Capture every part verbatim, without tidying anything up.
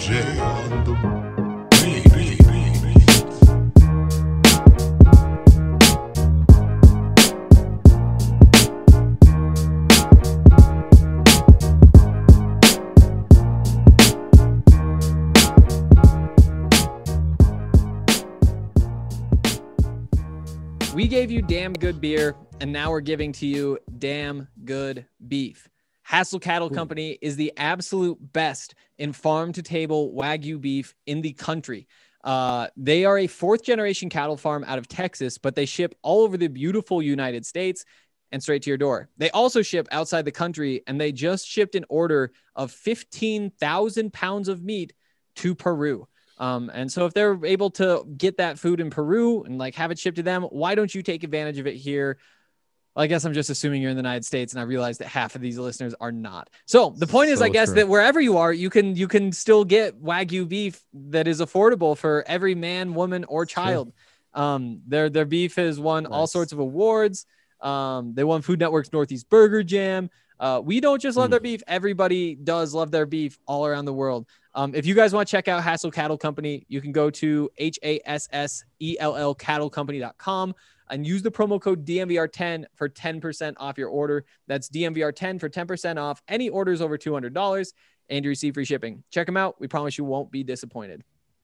J on the beat. beat, beat, beat. We gave you damn good beer, and now we're giving to you damn good beef. Hassel Cattle Company is the absolute best in farm-to-table Wagyu beef in the country. Uh, they are a fourth-generation cattle farm out of Texas, but they ship all over the beautiful United States and straight to your door. They also ship outside the country, and they just shipped an order of fifteen thousand pounds of meat to Peru. Um, and so if they're able to get that food in Peru and like have it shipped to them, why don't you take advantage of it here? Well, I guess I'm just assuming you're in the United States, and I realize that half of these listeners are not. So the point is, So I guess true. that wherever you are, you can, you can still get Wagyu beef that is affordable for every man, woman, or child. Um, their, their beef has won all Nice. sorts of awards. Um, they won Food Network's Northeast Burger Jam. Uh, we don't just love Mm. their beef. Everybody does love their beef all around the world. Um, if you guys want to check out Hassel Cattle Company, you can go to H A S S E L L cattle company dot com and use the promo code D M V R ten for ten percent off your order. That's D M V R ten for ten percent off any orders over two hundred dollars, and you receive free shipping. Check them out. We promise you won't be disappointed.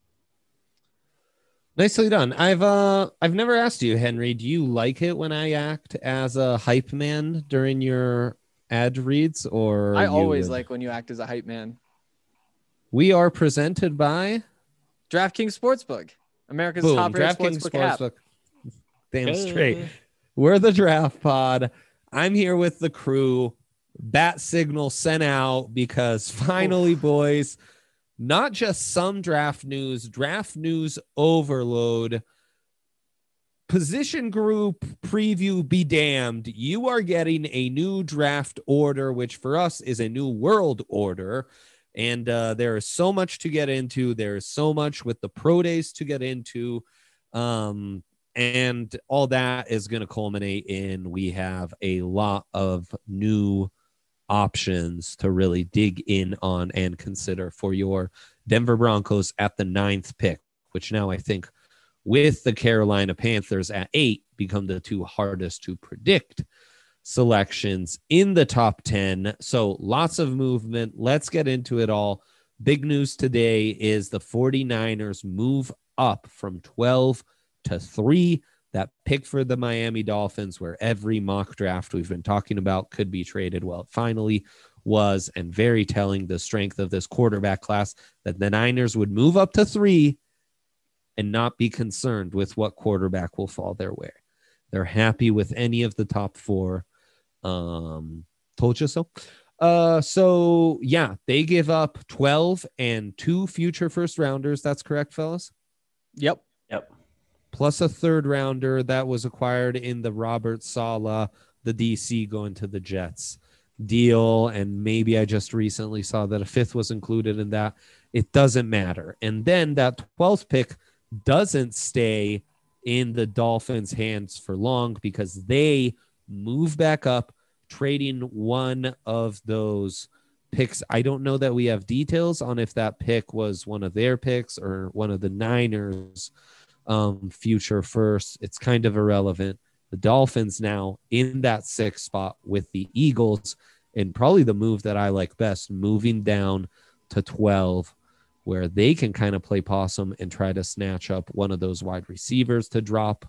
Nicely done. I've uh I've never asked you, Henry, do you like it when I act as a hype man during your ad reads, or I you always would- like when you act as a hype man. We are presented by DraftKings Sportsbook, America's Boom, top-rated DraftKings sportsbook app. Sportsbook. Damn Good. straight. We're the Draft Pod. I'm here with the crew. Bat signal sent out because finally, boys, not just some draft news, draft news overload. Position group preview be damned. You are getting a new draft order, which for us is a new world order. And uh, there is so much to get into. There is so much with the pro days to get into. Um, and all that is going to culminate in we have a lot of new options to really dig in on and consider for your Denver Broncos at the ninth pick, which now I think with the Carolina Panthers at eight become the two hardest to predict selections in the top ten. So lots of movement. Let's get into it all. Big news today is the 49ers move up from twelve to three. That pick for the Miami Dolphins, where every mock draft we've been talking about could be traded. Well, it finally was, and very telling the strength of this quarterback class that the Niners would move up to three and not be concerned with what quarterback will fall their way. They're happy with any of the top four. Um, told you so. Uh, so yeah, they give up twelve and two future first rounders. That's correct, fellas. Yep. Yep. Plus a third rounder that was acquired in the Robert Saleh, the D C going to the Jets deal. And maybe I just recently saw that a fifth was included in that. It doesn't matter. And then that twelfth pick doesn't stay in the Dolphins' hands for long because they move back up, trading one of those picks. I don't know that we have details on if that pick was one of their picks or one of the Niners' um, future first. It's kind of irrelevant. The Dolphins now in that sixth spot with the Eagles, and probably the move that I like best, moving down to twelve, where they can kind of play possum and try to snatch up one of those wide receivers to drop.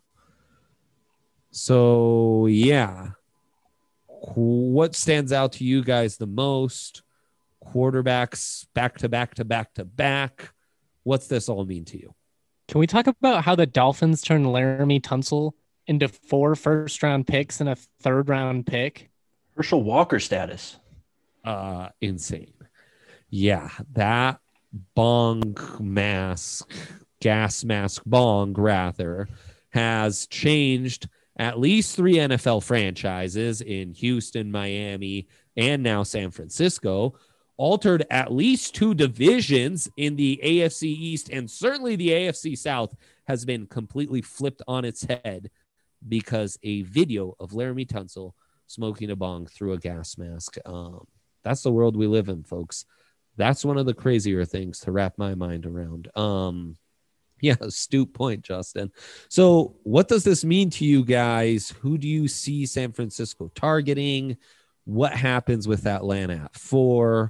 So, yeah. What stands out to you guys the most? Quarterbacks back to back to back to back. What's this all mean to you? Can we talk about how the Dolphins turned Laramie Tunsil into four first round picks and a third round pick? Herschel Walker status. Uh, insane. Yeah, that bong mask, gas mask bong, rather, has changed at least three N F L franchises in Houston, Miami, and now San Francisco, altered at least two divisions in the A F C East, and certainly the A F C South has been completely flipped on its head because a video of Laramie Tunsil smoking a bong through a gas mask. Um, that's the world we live in, folks. That's one of the crazier things to wrap my mind around. Um, yeah, astute point, Justin. So what does this mean to you guys? Who do you see San Francisco targeting? What happens with Atlanta at four?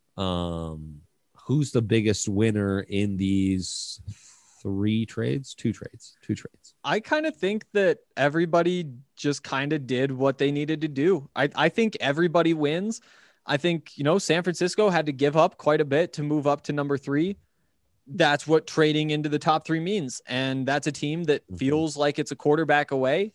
Um, who's the biggest winner in these three trades? Two trades, two trades. I kind of think that everybody just kind of did what they needed to do. I, I think everybody wins. I think, you know, San Francisco had to give up quite a bit to move up to number three. That's what trading into the top three means. And that's a team that mm-hmm. feels like it's a quarterback away.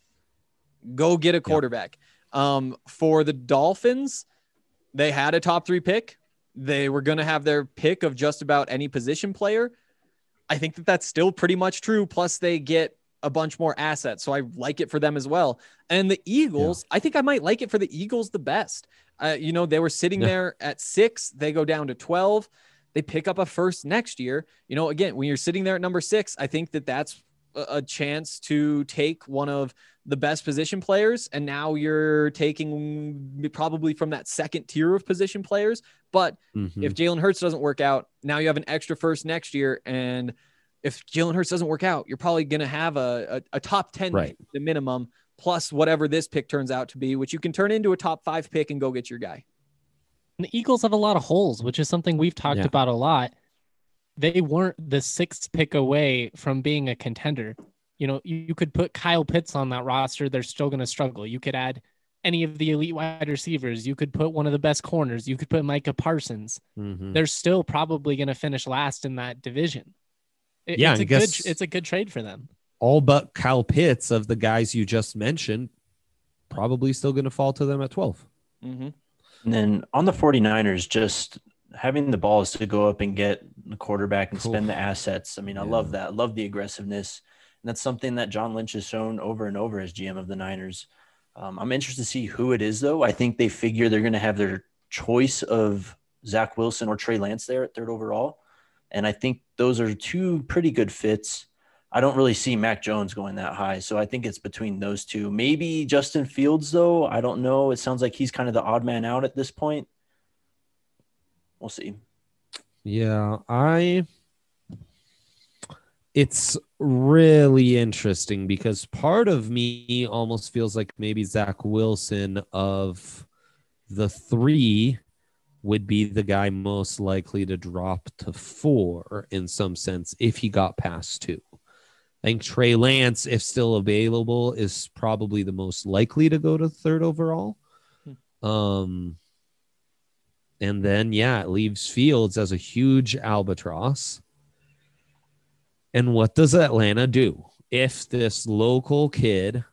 Go get a quarterback. Yeah. Um, for the Dolphins, they had a top three pick. They were going to have their pick of just about any position player. I think that that's still pretty much true. Plus they get a bunch more assets. So I like it for them as well. And the Eagles, yeah. I think I might like it for the Eagles the best. Uh, you know, they were sitting yeah. there at six. They go down to twelve. They pick up a first next year. You know, again, when you're sitting there at number six, I think that that's a, a chance to take one of the best position players. And now you're taking probably from that second tier of position players. But mm-hmm. if Jalen Hurts doesn't work out, now you have an extra first next year. And if Jalen Hurts doesn't work out, you're probably going to have a, a, a top ten right. pick, the minimum, plus whatever this pick turns out to be, which you can turn into a top five pick and go get your guy. And the Eagles have a lot of holes, which is something we've talked yeah. about a lot. They weren't the sixth pick away from being a contender. You know, you, you could put Kyle Pitts on that roster. They're still going to struggle. You could add any of the elite wide receivers. You could put one of the best corners. You could put Micah Parsons. Mm-hmm. They're still probably going to finish last in that division. It, yeah, it's I a guess good, it's a good trade for them. All but Kyle Pitts of the guys you just mentioned, probably still going to fall to them at twelve. Mm-hmm. And then on the 49ers, just having the balls to go up and get the quarterback and spend the assets. I mean, I yeah. love that. I love the aggressiveness. And that's something that John Lynch has shown over and over as G M of the Niners. Um, I'm interested to see who it is, though. I think they figure they're going to have their choice of Zach Wilson or Trey Lance there at third overall. And I think those are two pretty good fits. I don't really see Mac Jones going that high. So I think it's between those two. Maybe Justin Fields, though. I don't know. It sounds like he's kind of the odd man out at this point. We'll see. Yeah, I it's really interesting because part of me almost feels like maybe Zach Wilson of the three would be the guy most likely to drop to four in some sense if he got past two. I think Trey Lance, if still available, is probably the most likely to go to third overall. Hmm. Um, and then, yeah, it leaves Fields as a huge albatross. And what does Atlanta do if this local kid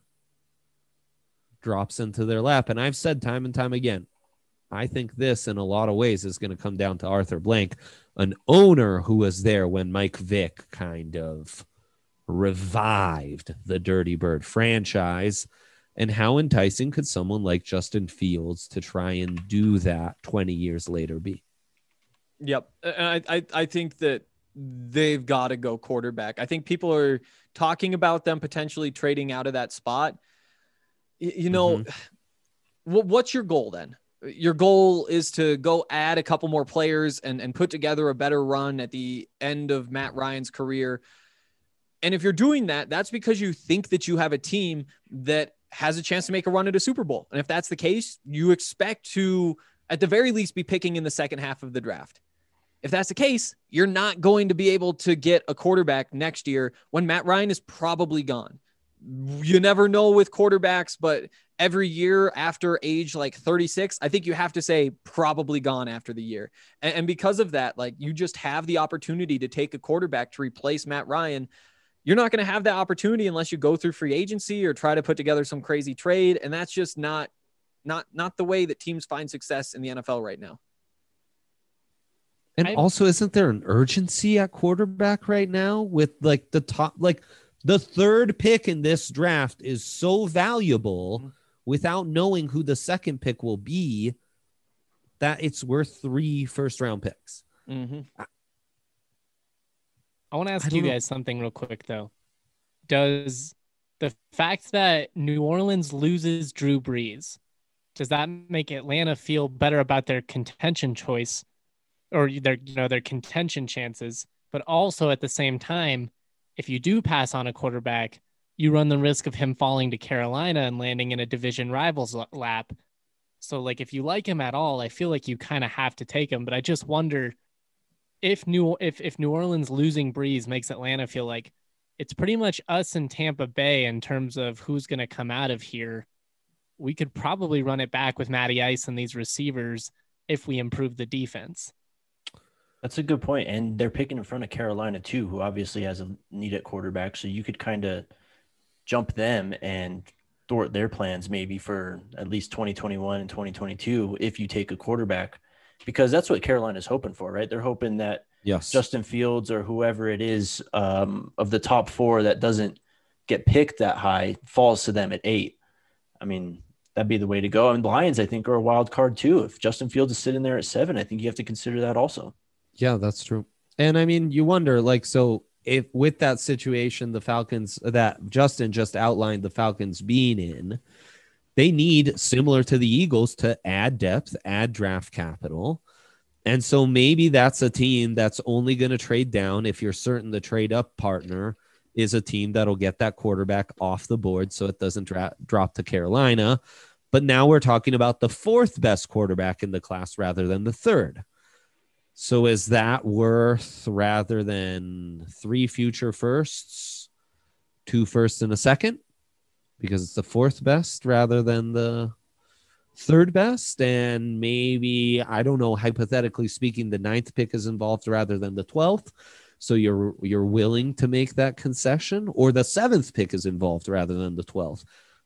drops into their lap? And I've said time and time again, I think this in a lot of ways is going to come down to Arthur Blank, an owner who was there when Mike Vick kind of revived the Dirty Bird franchise. And how enticing could someone like Justin Fields to try and do that twenty years later be? Yep. And I, I, I think that they've got to go quarterback. I think people are talking about them potentially trading out of that spot. You, you know, mm-hmm. what, what's your goal then? Your goal is to go add a couple more players and, and put together a better run at the end of Matt Ryan's career. And if you're doing that, that's because you think that you have a team that has a chance to make a run at a Super Bowl. And if that's the case, you expect to, at the very least, be picking in the second half of the draft. If that's the case, you're not going to be able to get a quarterback next year when Matt Ryan is probably gone. You never know with quarterbacks, but every year after age like thirty-six, I think you have to say probably gone after the year. And, and because of that, like you just have the opportunity to take a quarterback to replace Matt Ryan. You're not going to have that opportunity unless you go through free agency or try to put together some crazy trade. And that's just not, not, not the way that teams find success in the N F L right now. And I'm, also, isn't there an urgency at quarterback right now with like the top, like the third pick in this draft is so valuable mm-hmm. without knowing who the second pick will be that it's worth three first round picks. Mm-hmm. I, I want to ask I you know. guys something real quick, though. Does the fact that New Orleans loses Drew Brees, does that make Atlanta feel better about their contention choice or their, you know, their contention chances. But also at the same time, if you do pass on a quarterback, you run the risk of him falling to Carolina and landing in a division rivals lap. So like, if you like him at all, I feel like you kind of have to take him. But I just wonder if New if if New Orleans losing Breeze makes Atlanta feel like it's pretty much us and Tampa Bay in terms of who's going to come out of here. We could probably run it back with Matty Ice and these receivers if we improve the defense. That's a good point. And they're picking in front of Carolina too, who obviously has a need at quarterback. So you could kind of jump them and thwart their plans maybe for at least twenty twenty-one and twenty twenty-two if you take a quarterback, because that's what Carolina's hoping for, right? They're hoping that Yes. Justin Fields or whoever it is um, of the top four that doesn't get picked that high falls to them at eight. I mean, that'd be the way to go. And the Lions, I think, are a wild card too. If Justin Fields is sitting there at seven, I think you have to consider that also. Yeah, that's true. And I mean, you wonder, like, so if with that situation, the Falcons that Justin just outlined, the Falcons being in, they need, similar to the Eagles, to add depth, add draft capital. And so maybe that's a team that's only going to trade down if you're certain the trade up partner is a team that'll get that quarterback off the board so it doesn't dra- drop to Carolina. But now we're talking about the fourth best quarterback in the class rather than the third. So is that worth, rather than three future firsts, two firsts and a second? Because it's the fourth best rather than the third best. And maybe, I don't know, hypothetically speaking, the ninth pick is involved rather than the twelfth. So you're you're willing to make that concession, or the seventh pick is involved rather than the twelfth.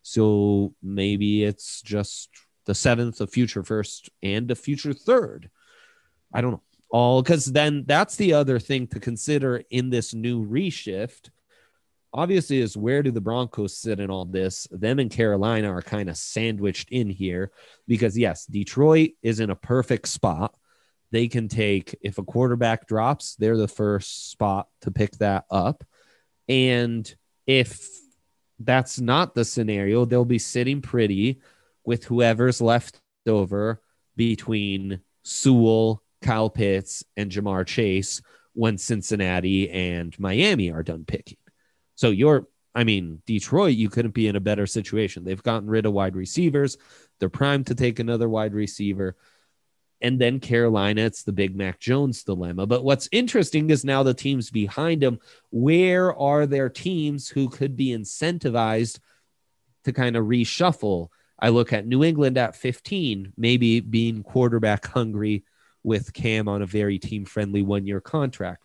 So maybe it's just the seventh, a future first, and a future third. I don't know. All because then that's the other thing to consider in this new reshift. Obviously, is where do the Broncos sit in all this? Them and Carolina are kind of sandwiched in here because, yes, Detroit is in a perfect spot. They can take, if a quarterback drops, they're the first spot to pick that up. And if that's not the scenario, they'll be sitting pretty with whoever's left over between Sewell, Kyle Pitts, and Jamar Chase when Cincinnati and Miami are done picking. So you're, I mean, Detroit, you couldn't be in a better situation. They've gotten rid of wide receivers. They're primed to take another wide receiver. And then Carolina, it's the Big Mac Jones dilemma. But what's interesting is now the teams behind them, where are there teams who could be incentivized to kind of reshuffle? I look at New England at fifteen, maybe being quarterback hungry with Cam on a very team-friendly one-year contract.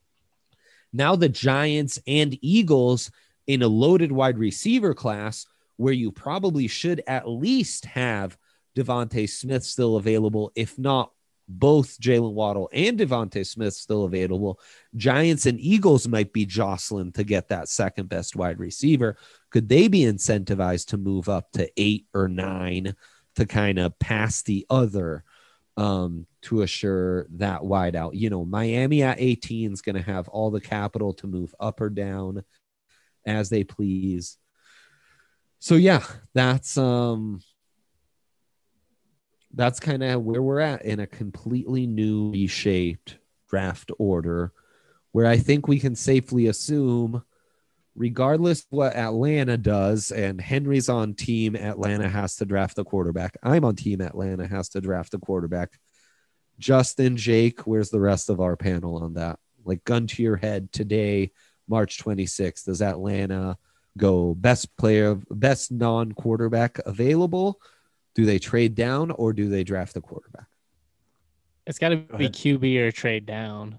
Now the Giants and Eagles in a loaded wide receiver class where you probably should at least have Devontae Smith still available, if not both Jalen Waddle and Devontae Smith still available. Giants and Eagles might be jostling to get that second best wide receiver. Could they be incentivized to move up to eight or nine to kind of pass the other um, to assure that wide out? You know, Miami at eighteen is going to have all the capital to move up or down as they please. So yeah, that's um, that's kind of where we're at in a completely new reshaped draft order, where I think we can safely assume, regardless of what Atlanta does, and Henry's on team Atlanta has to draft the quarterback. I'm on team Atlanta has to draft the quarterback. Justin, Jake, where's the rest of our panel on that? Like, gun to your head today, March twenty-sixth, does Atlanta go best player, best non-quarterback available? Do they trade down or do they draft the quarterback? It's got to be Q B or trade down.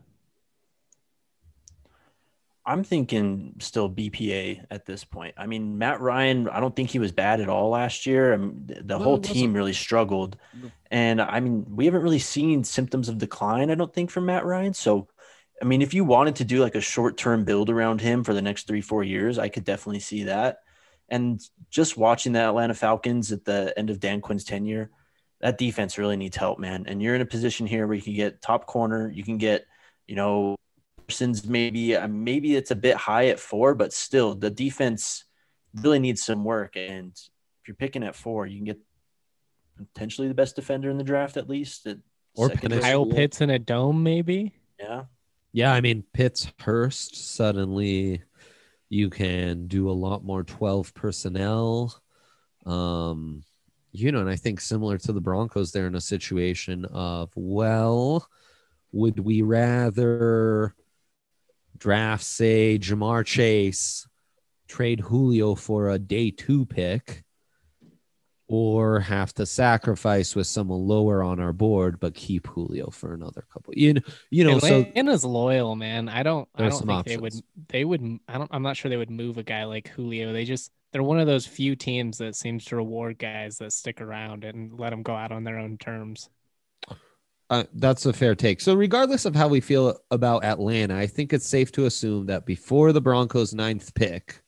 I'm thinking still B P A at this point. I mean, Matt Ryan, I don't think he was bad at all last year. I mean, the No, whole he team wasn't. really struggled. No. And I mean, we haven't really seen symptoms of decline, I don't think, from Matt Ryan. So, I mean, if you wanted to do like a short-term build around him for the next three, four years, I could definitely see that. And just watching the Atlanta Falcons at the end of Dan Quinn's tenure, that defense really needs help, man. And you're in a position here where you can get top corner, you can get, you know, Parsons maybe, uh, maybe it's a bit high at four, but still the defense really needs some work. And if you're picking at four, you can get potentially the best defender in the draft, at least. It, Or Second Penei Kyle Sewell. Pitts in a dome, maybe. Yeah. Yeah, I mean, Pitts Hurst, suddenly you can do a lot more twelve personnel. Um, you know, and I think similar to the Broncos, they're in a situation of, well, would we rather draft, say, Jamar Chase, trade Julio for a day two pick, or have to sacrifice with someone lower on our board, but keep Julio for another couple? You know, you know. So Atlanta's loyal, man. I don't. I There's don't some think they options. would. They would. I don't. I'm not sure they would move a guy like Julio. They just. They're one of those few teams that seems to reward guys that stick around and let them go out on their own terms. Uh, that's a fair take. So regardless of how we feel about Atlanta, I think it's safe to assume that before the Broncos' ninth pick,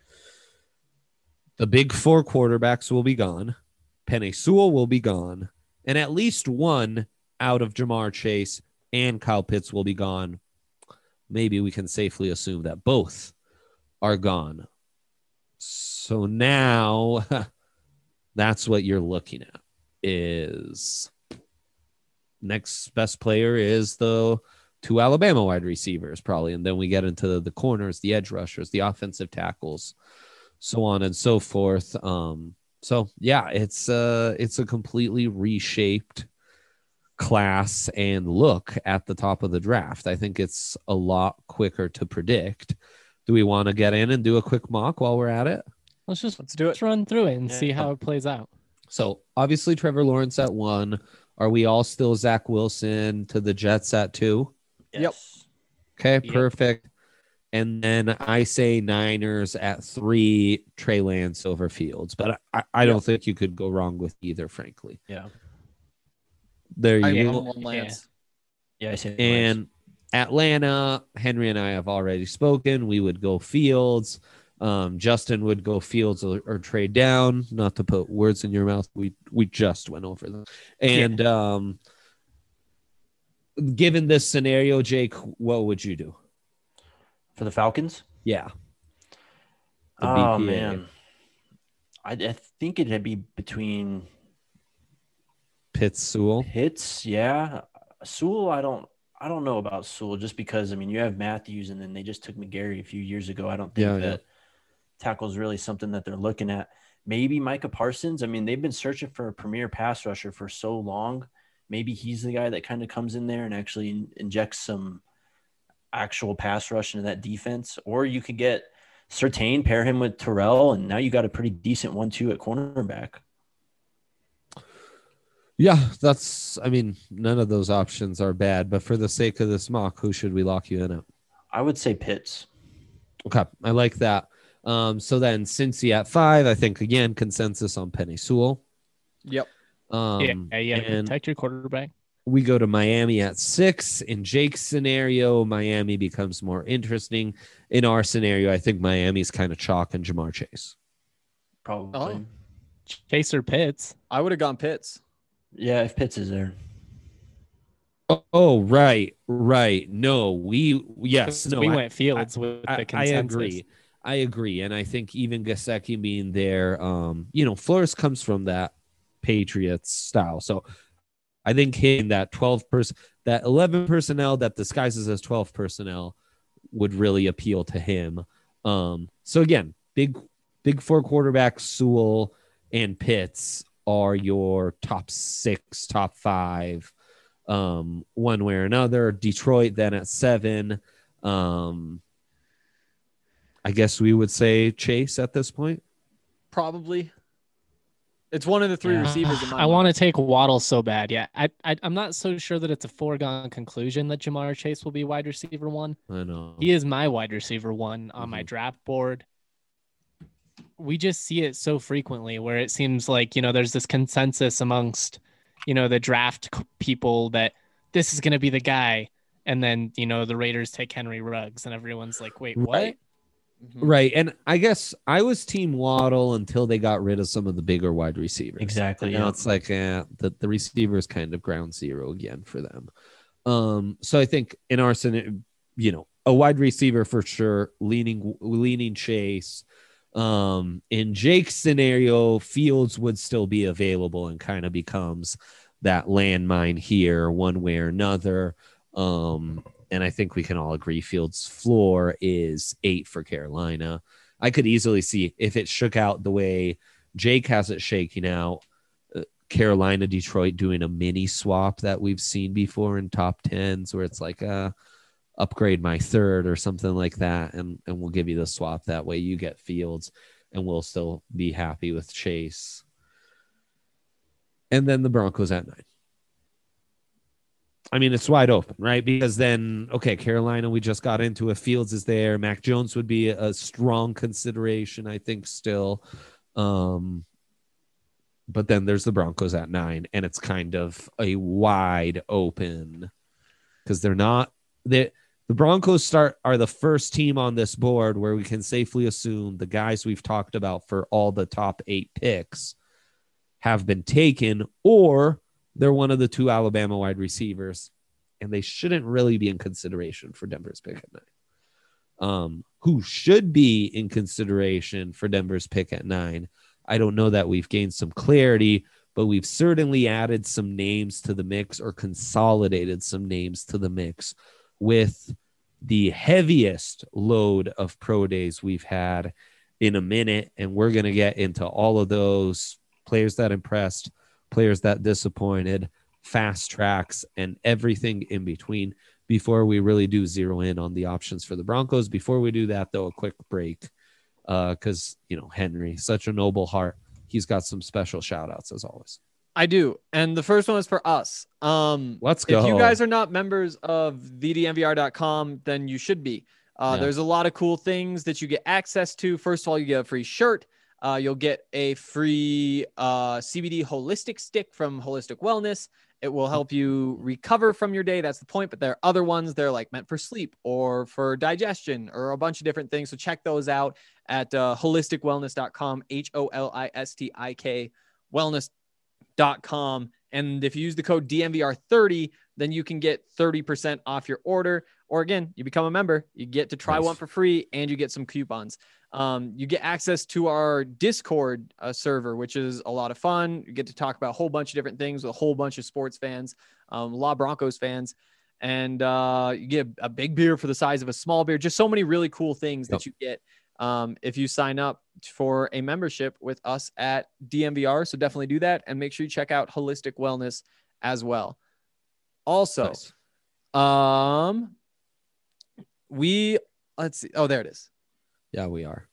the big four quarterbacks will be gone. Penei Sewell will be gone. And at least one out of Jamar Chase and Kyle Pitts will be gone. Maybe we can safely assume that both are gone. So now that's what you're looking at is... Next best player is the two Alabama wide receivers, probably. And then we get into the corners, the edge rushers, the offensive tackles, so on and so forth. Um, so, yeah, it's, uh, it's a completely reshaped class and look at the top of the draft. I think it's a lot quicker to predict. Do we want to get in and do a quick mock while we're at it? Let's just Let's do it. let's run through it and Yeah. see how it plays out. So, obviously, Trevor Lawrence at one. Are we all still Zach Wilson to the Jets at two? Yep. Yes. Okay, Yep. perfect. And then I say Niners at three, Trey Lance over Fields. But I, I don't think you could go wrong with either, frankly. Yeah. There I you Yeah. go. am on Lance. Yeah. I say Lance. And Atlanta, Henry and I have already spoken. We would go Fields. Um, Justin would go Fields or, or trade down. Not to put words in your mouth. We we just went over them. And um, given this scenario, Jake, what would you do? For the Falcons? Yeah. The Oh, B P A. man. I, I think it'd be between Pitts, Sewell. Pitts, yeah. Sewell, I don't I don't know about Sewell just because, I mean, you have Matthews and then they just took McGarry a few years ago. I don't think Yeah, that tackle is really something that they're looking at. Maybe Micah Parsons. I mean, they've been searching for a premier pass rusher for so long. Maybe he's the guy that kind of comes in there and actually in, injects some actual pass rush into that defense. Or you could get Surtain, pair him with Terrell, and now you got a pretty decent one two at cornerback. Yeah, that's, I mean, none of those options are bad, but for the sake of this mock, who should we lock you in at? I would say Pitts. Okay, I like that. Um, so then Cincy at five, I think, again, consensus on Penei Sewell. Yep. Um, yeah, yeah. and Protect your quarterback. we go to Miami at six. In Jake's scenario, Miami becomes more interesting. In our scenario, I think Miami's kind of chalk and Jamar Chase. Probably. Oh. Chaser Pitts. I would have gone Pitts. Yeah, if Pitts is there. Oh, oh, right, right. No, we, yes, no, we I- went Fields with I, the I consensus. agree. I agree. And I think even Gesicki being there, um, you know, Flores comes from that Patriots style. So I think hitting that twelve person, that eleven personnel that disguises as twelve personnel would really appeal to him. Um, so again, big, big four quarterbacks, Sewell and Pitts are your top six, top five, um, one way or another. Detroit then at seven. Um, I guess we would say Chase at this point. Probably. It's one of the three Yeah. receivers in my I mind. want to take Waddle so bad. Yeah, I, I I'm not so sure that it's a foregone conclusion that Jamar Chase will be wide receiver one. I know. He is my wide receiver one on my Mhm. draft board. We just see it so frequently where it seems like, you know, there's this consensus amongst, you know, the draft c- people that this is going to be the guy. And then, you know, the Raiders take Henry Ruggs and everyone's like, wait, what? Right. Mhm. Right. And I guess I was team Waddle until they got rid of some of the bigger wide receivers. Exactly, And now yeah. it's like eh, the, the receiver is kind of ground zero again for them. Um, so I think in our scenario, you know, a wide receiver for sure, leaning leaning Chase. Um, in Jake's scenario, Fields would still be available and kind of becomes that landmine here one way or another. Um, and I think we can all agree Fields' floor is eight for Carolina. I could easily see if it shook out the way Jake has it shaking out, uh, Carolina, Detroit doing a mini swap that we've seen before in top tens where it's like, uh, upgrade my third or something like that. And, and we'll give you the swap. That way you get Fields and we'll still be happy with Chase. And then the Broncos at nine. I mean, it's wide open, right? Because then, okay, Carolina, we just got into it. Fields is there. Mac Jones would be a strong consideration, I think, still. Um, but then there's the Broncos at nine, and it's kind of a wide open because they're not they, the Broncos start are the first team on this board where we can safely assume the guys we've talked about for all the top eight picks have been taken, or they're one of the two Alabama wide receivers, and they shouldn't really be in consideration for Denver's pick at nine. Um, who should be in consideration for Denver's pick at nine? I don't know that we've gained some clarity, but we've certainly added some names to the mix or consolidated some names to the mix with the heaviest load of pro days we've had in a minute. And we're going to get into all of those players that impressed, players that disappointed, fast tracks, and everything in between before we really do zero in on the options for the Broncos. Before we do that, though, a quick break because, uh, you know, Henry, such a noble heart. He's got some special shout outs as always. I do. And the first one is for us. Um, Let's go. If you guys are not members of the d n v r dot com, then you should be. Uh, Yeah. There's a lot of cool things that you get access to. First of all, you get a free shirt. Uh, you'll get a free uh, C B D holistic stick from Holistic Wellness. It will help you recover from your day. That's the point. But there are other ones. They're like meant for sleep or for digestion or a bunch of different things. So check those out at uh, holistic wellness dot com, H O L I S T I K wellness dot com. And if you use the code D N V R thirty, then you can get thirty percent off your order. Or again, you become a member, you get to try Nice. one for free and you get some coupons. Um, you get access to our Discord uh, server, which is a lot of fun. You get to talk about a whole bunch of different things with a whole bunch of sports fans, um, a lot of Broncos fans, and uh, you get a big beer for the size of a small beer. Just so many really cool things Yep. that you get um, if you sign up for a membership with us at D M V R. So definitely do that and make sure you check out Holistic Wellness as well. Also, Nice. um, we let's see. Oh, there it is. Yeah, we are.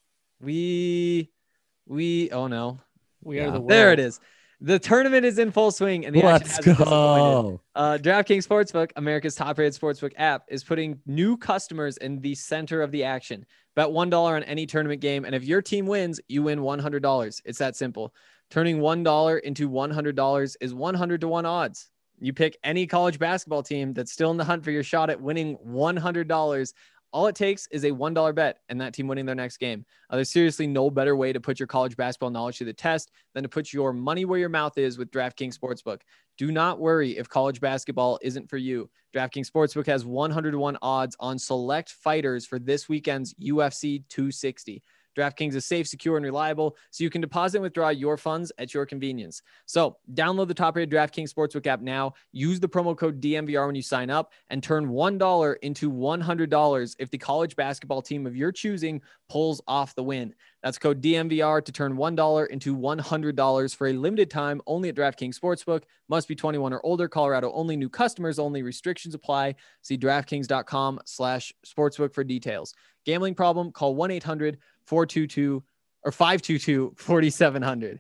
We, we, oh no, We Yeah. are the world. there it is. The tournament is in full swing and the action Let's hasn't disappointed. go. Uh, DraftKings Sportsbook, America's top-rated sportsbook app, is putting new customers in the center of the action. Bet one dollar on any tournament game, and if your team wins, you win one hundred dollars. It's that simple. Turning one dollar into one hundred dollars is one hundred to one odds. You pick any college basketball team that's still in the hunt for your shot at winning one hundred dollars. All it takes is a one dollar bet and that team winning their next game. Uh, there's seriously no better way to put your college basketball knowledge to the test than to put your money where your mouth is with DraftKings Sportsbook. Do not worry if college basketball isn't for you. DraftKings Sportsbook has one hundred to one odds on select fighters for this weekend's U F C two sixty. DraftKings is safe, secure, and reliable, so you can deposit and withdraw your funds at your convenience. So download the top-rated DraftKings Sportsbook app now. Use the promo code D M V R when you sign up and turn one dollar into one hundred dollars if the college basketball team of your choosing pulls off the win. That's code D M V R to turn one dollar into one hundred dollars for a limited time only at DraftKings Sportsbook. Must be twenty-one or older. Colorado only. New customers only. Restrictions apply. See DraftKings.com slash sportsbook for details. Gambling problem? Call one eight hundred four two two or five two two four seven zero zero.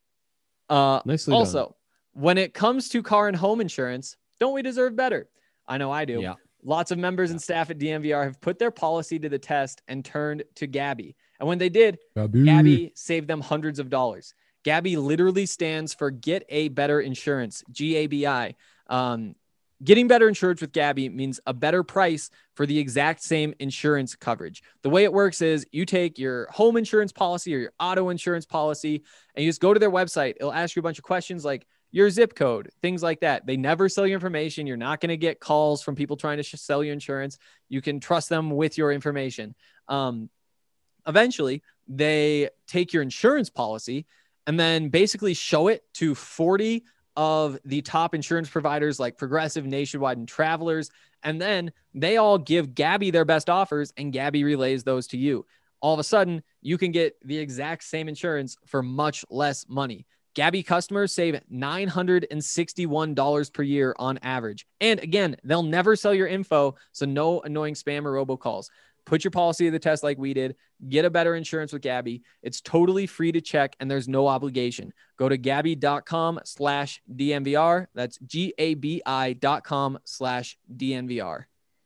Uh, Nicely also, done. when it comes to car and home insurance, don't we deserve better? I know I do. Yeah. Lots of members and staff at D M V R have put their policy to the test and turned to Gabby. And when they did, Gabby saved them hundreds of dollars. Gabby literally stands for Get a Better Insurance, G A B I. Um, getting better insurance with Gabby means a better price for the exact same insurance coverage. The way it works is you take your home insurance policy or your auto insurance policy and you just go to their website. It'll ask you a bunch of questions like your zip code, things like that. They never sell you information. You're not going to get calls from people trying to sh- sell you insurance. You can trust them with your information. Um, eventually, they take your insurance policy and then basically show it to forty of the top insurance providers like Progressive, Nationwide, and Travelers. And then they all give Gabby their best offers, and Gabby relays those to you. All of a sudden, you can get the exact same insurance for much less money. Gabby customers save nine hundred sixty-one dollars per year on average. And again, they'll never sell your info, so no annoying spam or robocalls. Put your policy to the test like we did. Get a better insurance with Gabby. It's totally free to check, and there's no obligation. Go to Gabby.com slash DNVR. That's G-A-B-I dot com slash DNVR.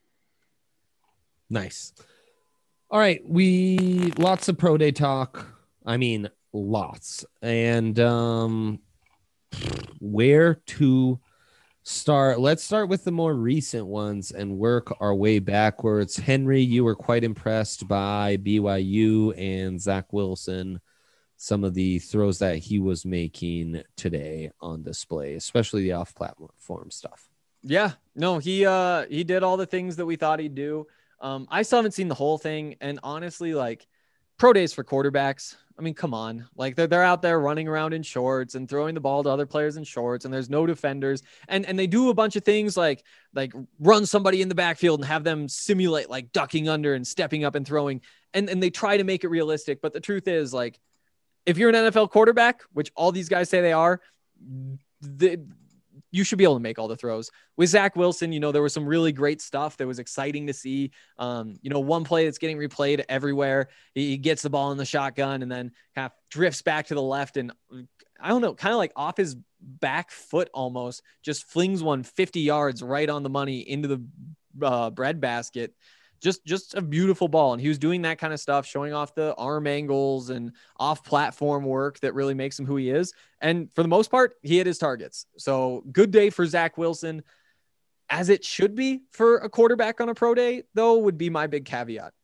Nice. All right. We, lots of pro day talk. I mean, lots. And um, where to start? Let's start with the more recent ones and work our way backwards. Henry, you were quite impressed by B Y U and Zach Wilson, some of the throws that he was making today on display, especially the off-platform stuff. Yeah, no, he uh he did all the things that we thought he'd do. Um, I still haven't seen the whole thing, and honestly, like, pro days for quarterbacks, I mean, come on. Like, they're, they're out there running around in shorts and throwing the ball to other players in shorts, and there's no defenders. And and they do a bunch of things like like run somebody in the backfield and have them simulate like ducking under and stepping up and throwing. And, and they try to make it realistic. But the truth is, like, if you're an N F L quarterback, which all these guys say they are, the you should be able to make all the throws. With Zach Wilson, you know, there was some really great stuff that was exciting to see. Um, you know, one play that's getting replayed everywhere. He gets the ball in the shotgun and then kind of drifts back to the left. And I don't know, kind of like off his back foot almost, just flings one fifty yards right on the money into the uh, bread basket. Just, just a beautiful ball. And he was doing that kind of stuff, showing off the arm angles and off platform work that really makes him who he is. And for the most part, he hit his targets. So good day for Zach Wilson, as it should be for a quarterback on a pro day, though, would be my big caveat.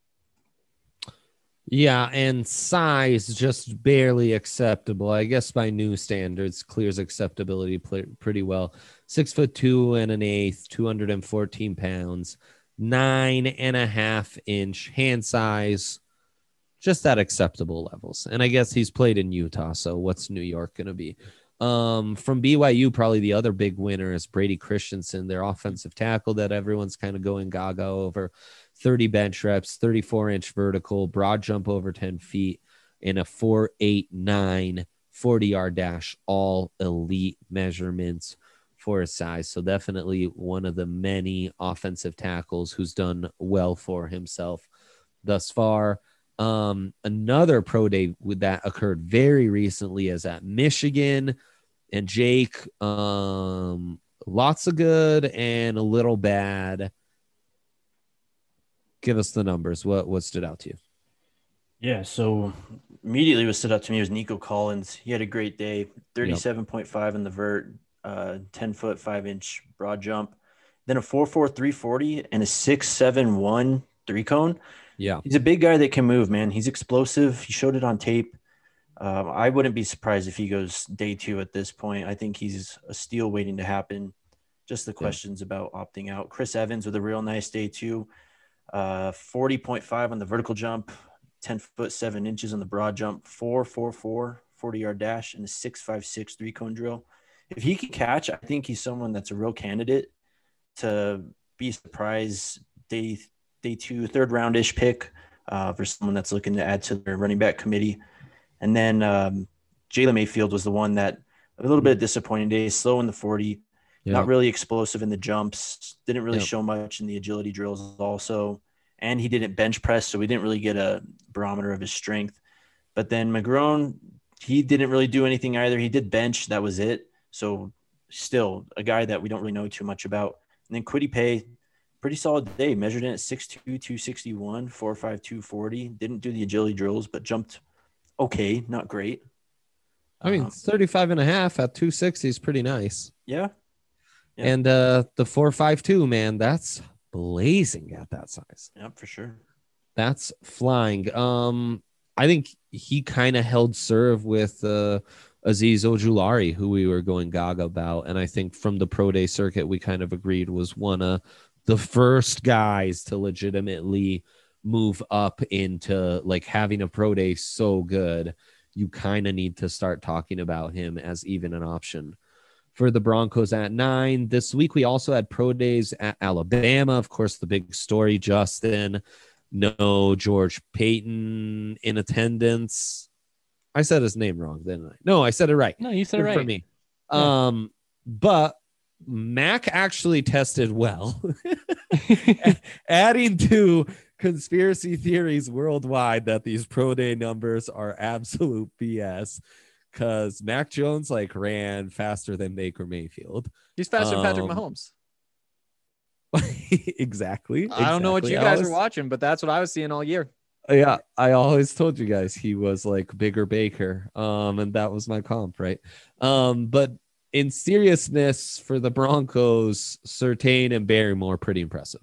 Yeah. And size just barely acceptable. I guess by new standards, clears acceptability pretty well. Six foot two and an eighth, two hundred fourteen pounds. Nine and a half inch hand size, just at acceptable levels. And I guess he's played in Utah, so what's New York going to be? Um, from B Y U, probably the other big winner is Brady Christensen, their offensive tackle that everyone's kind of going gaga over. thirty bench reps, thirty-four inch vertical, broad jump over ten feet, and a four eight nine forty yard dash, all elite measurements for his size. So definitely one of the many offensive tackles who's done well for himself thus far. Um, another pro day that occurred very recently is at Michigan, and Jake, um, lots of good and a little bad. Give us the numbers. What, what stood out to you? Yeah. So immediately what stood out to me was Nico Collins. He had a great day, thirty-seven point five in the vert, uh ten foot five inch broad jump, then a four four three forty and a six seven one three cone. Yeah, he's a big guy that can move, man. He's explosive. He showed it on tape. um, I wouldn't be surprised if he goes day two at this point. I think he's a steal waiting to happen. Just the questions yeah. about opting out. Chris Evans with a real nice day too, uh forty point five on the vertical jump, ten foot seven inches on the broad jump, four four four forty yard dash, and a six five six three cone drill. If he can catch, I think he's someone that's a real candidate to be a surprise day day two, third round-ish pick uh, for someone that's looking to add to their running back committee. And then um, Jalen Mayfield was the one that a little bit disappointing day, slow in the forty, yeah. not really explosive in the jumps, didn't really yeah. show much in the agility drills also. And he didn't bench press, so we didn't really get a barometer of his strength. But then McGrone, he didn't really do anything either. He did bench, that was it. So still a guy that we don't really know too much about. And then Kwity Paye, pretty solid day, measured in at six two, two sixty-one, four five, two forty. Didn't do the agility drills, but jumped okay, not great. I mean, um, thirty-five and a half at two sixty is pretty nice. Yeah. yeah. And uh, the four five two, man, that's blazing at that size. Yeah, for sure. That's flying. Um, I think he kind of held serve with uh, Azeez Ojulari, who we were going gaga about. And I think from the pro day circuit, we kind of agreed was one of the first guys to legitimately move up into like having a pro day so good. You kind of need to start talking about him as even an option for the Broncos at nine. This week, we also had pro days at Alabama. Of course, the big story, Justin, no George Payton in attendance. I said his name wrong, didn't I? No, I said it right. No, you said Good it for right. me. Yeah. Um, but Mac actually tested well, adding to conspiracy theories worldwide that these pro day numbers are absolute B S. Because Mac Jones like ran faster than Baker Mayfield. He's faster than Patrick Um, Mahomes. exactly. I don't know what exactly. you I guys always- are watching, but that's what I was seeing all year. Yeah, I always told you guys he was like bigger Baker. Um, and that was my comp, right? Um, but in seriousness, for the Broncos, Surtain and Barrymore, pretty impressive.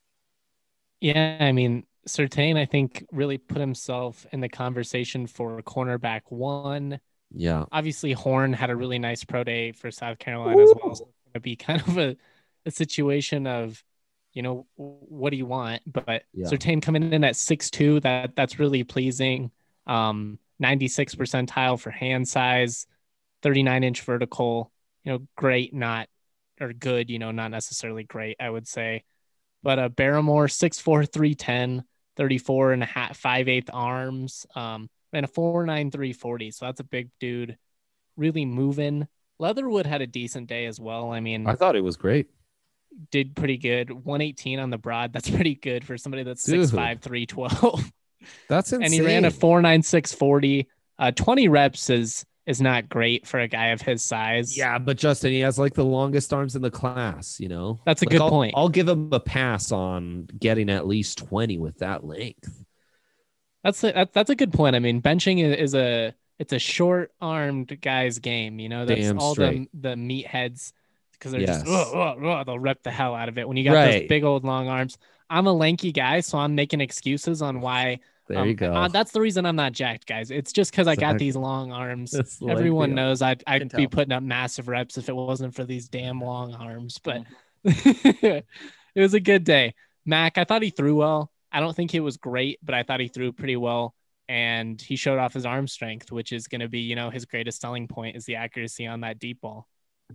Yeah, I mean, Surtain, I think, really put himself in the conversation for cornerback one. Yeah. Obviously, Horn had a really nice pro day for South Carolina as well. So it's going to be kind of a, a situation of, you know, what do you want? But Yeah. Surtain coming in at six two, that that's really pleasing. Um, ninety-six percentile for hand size, thirty-nine inch vertical, you know, great, not, or good, you know, not necessarily great, I would say. But uh, Barrymore, six four, three ten, thirty-four and a half, five eighth arms, um, and a four nine, three forty. So that's a big dude, really moving. Leatherwood had a decent day as well. I mean, I thought it was great. did pretty good. one eighteen on the broad. That's pretty good for somebody that's Dude. six five, three twelve. That's insane. And he ran a four nine, six forty. Uh, twenty reps is is not great for a guy of his size. Yeah, but Justin, he has like the longest arms in the class, you know? That's a Like, good I'll, point. I'll give him a pass on getting at least twenty with that length. That's a, that, that's a good point. I mean, benching is, is a it's a short armed guy's game. You know, that's Damn all straight. the the meatheads because they're Yes. just "Ugh, ugh, ugh," they'll rep the hell out of it when you got Right. those big old long arms. I'm a lanky guy, so I'm making excuses on why. There um, you go. uh, that's the reason I'm not jacked, guys. It's just because I got Exactly. these long arms. That's the Everyone length, knows I'd I'd Can be tell. putting up massive reps if it wasn't for these damn long arms. But Mm-hmm. it was a good day. Mac, I thought he threw well. I don't think it was great, but I thought he threw pretty well. And he showed off his arm strength, which is going to be, you know, his greatest selling point is the accuracy on that deep ball.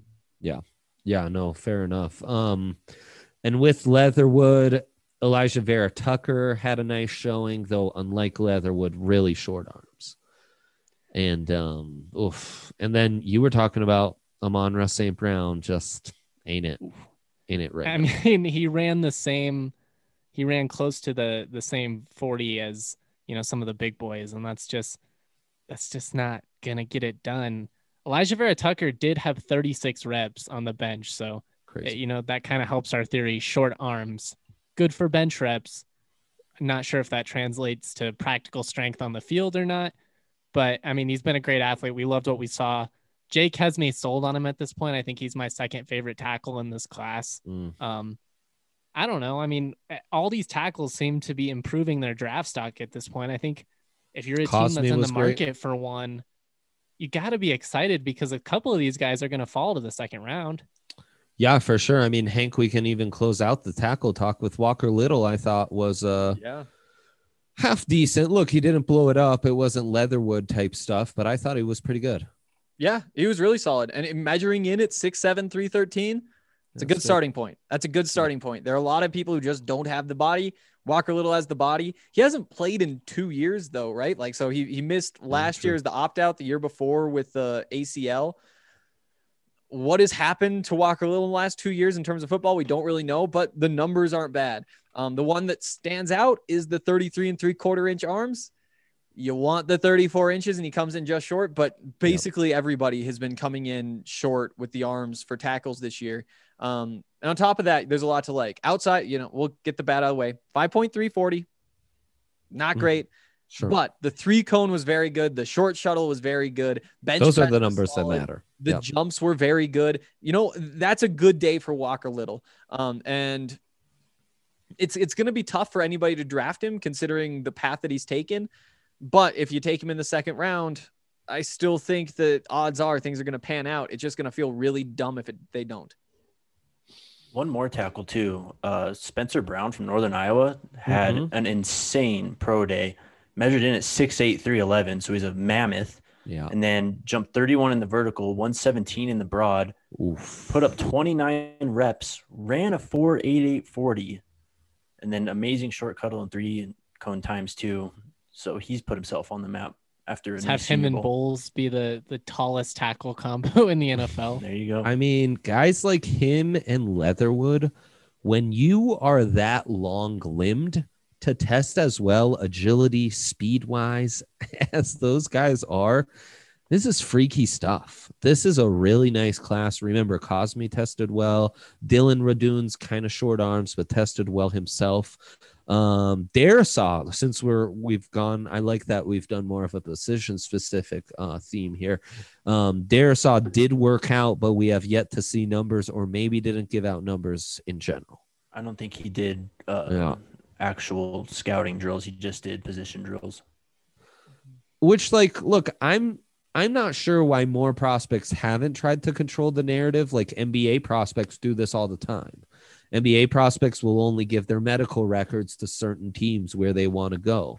Yeah, no, fair enough. Um, and with Leatherwood, Elijah Vera Tucker had a nice showing, though unlike Leatherwood, really short arms. And um, oof. And then you were talking about Amon-Ra Saint Brown, just ain't it, ain't it right? I now. mean, he ran the same, he ran close to the the same forty as, you know, some of the big boys, and that's just that's just not gonna get it done. Elijah Vera Tucker did have thirty-six reps on the bench, so Crazy. you know that kind of helps our theory. Short arms, good for bench reps. I'm not sure if that translates to practical strength on the field or not, but I mean, he's been a great athlete. We loved what we saw. Jake has me sold on him at this point. I think he's my second favorite tackle in this class. Mm. Um, I don't know. I mean, all these tackles seem to be improving their draft stock at this point. I think if you're a team Cosme that's in the was great. market for one, you got to be excited because a couple of these guys are going to fall to the second round. Yeah, for sure. I mean, Hank, we can even close out the tackle talk with Walker Little. I thought was uh Yeah. half decent. Look, he didn't blow it up. It wasn't Leatherwood type stuff, but I thought he was pretty good. Yeah, he was really solid. And in measuring in at six seven, three thirteen, it's a good That's starting point. That's a good starting point. There are a lot of people who just don't have the body. Walker Little has the body. He hasn't played in two years though, right? Like, so he, he missed last true. year's the opt-out, the year before with the A C L. What has happened to Walker Little in the last two years in terms of football? We don't really know, but the numbers aren't bad. Um, the one that stands out is the thirty-three and three quarter inch arms. You want the thirty-four inches and he comes in just short, but basically everybody has been coming in short with the arms for tackles this year. Um, and on top of that, there's a lot to like. Outside, you know, we'll get the bad out of the way. five point three forty, not Mhm. great, Sure. but the three cone was very good. The short shuttle was very good. Bench Those are press the was numbers that solid. matter. The Yep. jumps were very good. You know, that's a good day for Walker Little. Um, and it's it's going to be tough for anybody to draft him considering the path that he's taken. But if you take him in the second round, I still think that odds are things are going to pan out. It's just going to feel really dumb if it, they don't. One more tackle too. Uh, Spencer Brown from Northern Iowa had Mhm. an insane pro day, measured in at six eight, three eleven. So he's a mammoth. Yeah. and then jumped thirty-one in the vertical, one seventeen in the broad, Oof. put up twenty-nine reps, ran a four eighty-eight forty, and then amazing short cuddle and three and cone times too. So he's put himself on the map after a Let's new have him Senior and Bowl. Bowles be the, the tallest tackle combo in the N F L. There you go. I mean, guys like him and Leatherwood, when you are that long limbed to test as well agility, speed wise as those guys are, this is freaky stuff. This is a really nice class. Remember, Cosme tested well. Dylan Radoon's kind of short arms, but tested well himself. Um, Darisaw, since we're we've gone, I like that we've done more of a position specific uh, theme here. Um, Darisaw did work out, but we have yet to see numbers, or maybe didn't give out numbers in general. I don't think he did uh, Yeah. actual scouting drills. He just did position drills. Which, like, look, I'm I'm not sure why more prospects haven't tried to control the narrative. Like N B A prospects do this all the time. N B A prospects will only give their medical records to certain teams where they want to go.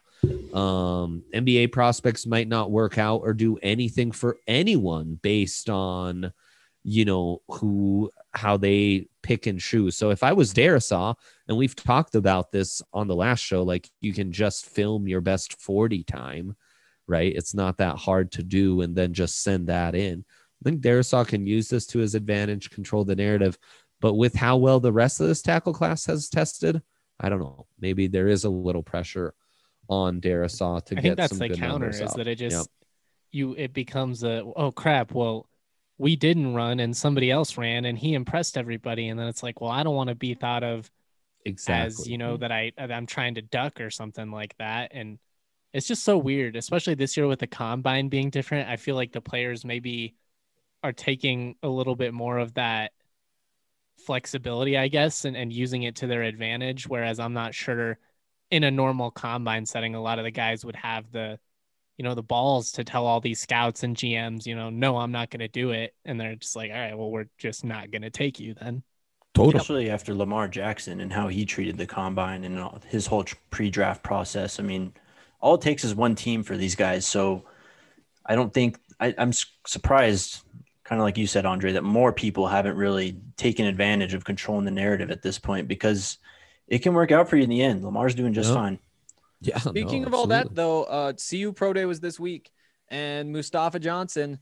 Um, N B A prospects might not work out or do anything for anyone based on, you know, who, how they pick and choose. So if I was Darisaw, and we've talked about this on the last show, like you can just film your best forty time, right? It's not that hard to do and then just send that in. I think Darisaw can use this to his advantage, control the narrative. But with how well the rest of this tackle class has tested, I don't know. Maybe there is a little pressure on Darisaw to I get think that's some the good counter numbers is out. that it just Yep. you it becomes a oh crap, well, we didn't run and somebody else ran and he impressed everybody, and then it's like, well, I don't want to be thought of Exactly. as, you know, that I that I'm trying to duck or something like that. And it's just so weird, especially this year with the combine being different. I feel like the players maybe are taking a little bit more of that flexibility, I guess, and, and using it to their advantage. Whereas I'm not sure in a normal combine setting, a lot of the guys would have the, you know, the balls to tell all these scouts and G Ms, you know, no, I'm not going to do it. And they're just like, all right, well, we're just not going to take you then. Totally. Especially after Lamar Jackson and how he treated the combine and all- his whole tr- pre-draft process. I mean, all it takes is one team for these guys. So I don't think I, I'm s- surprised, kind of like you said, Andre, that more people haven't really taken advantage of controlling the narrative at this point, because it can work out for you in the end. Lamar's doing just Yep. fine. Yeah. Speaking no, of all that, absolutely. though, uh, C U Pro Day was this week, and Mustafa Johnson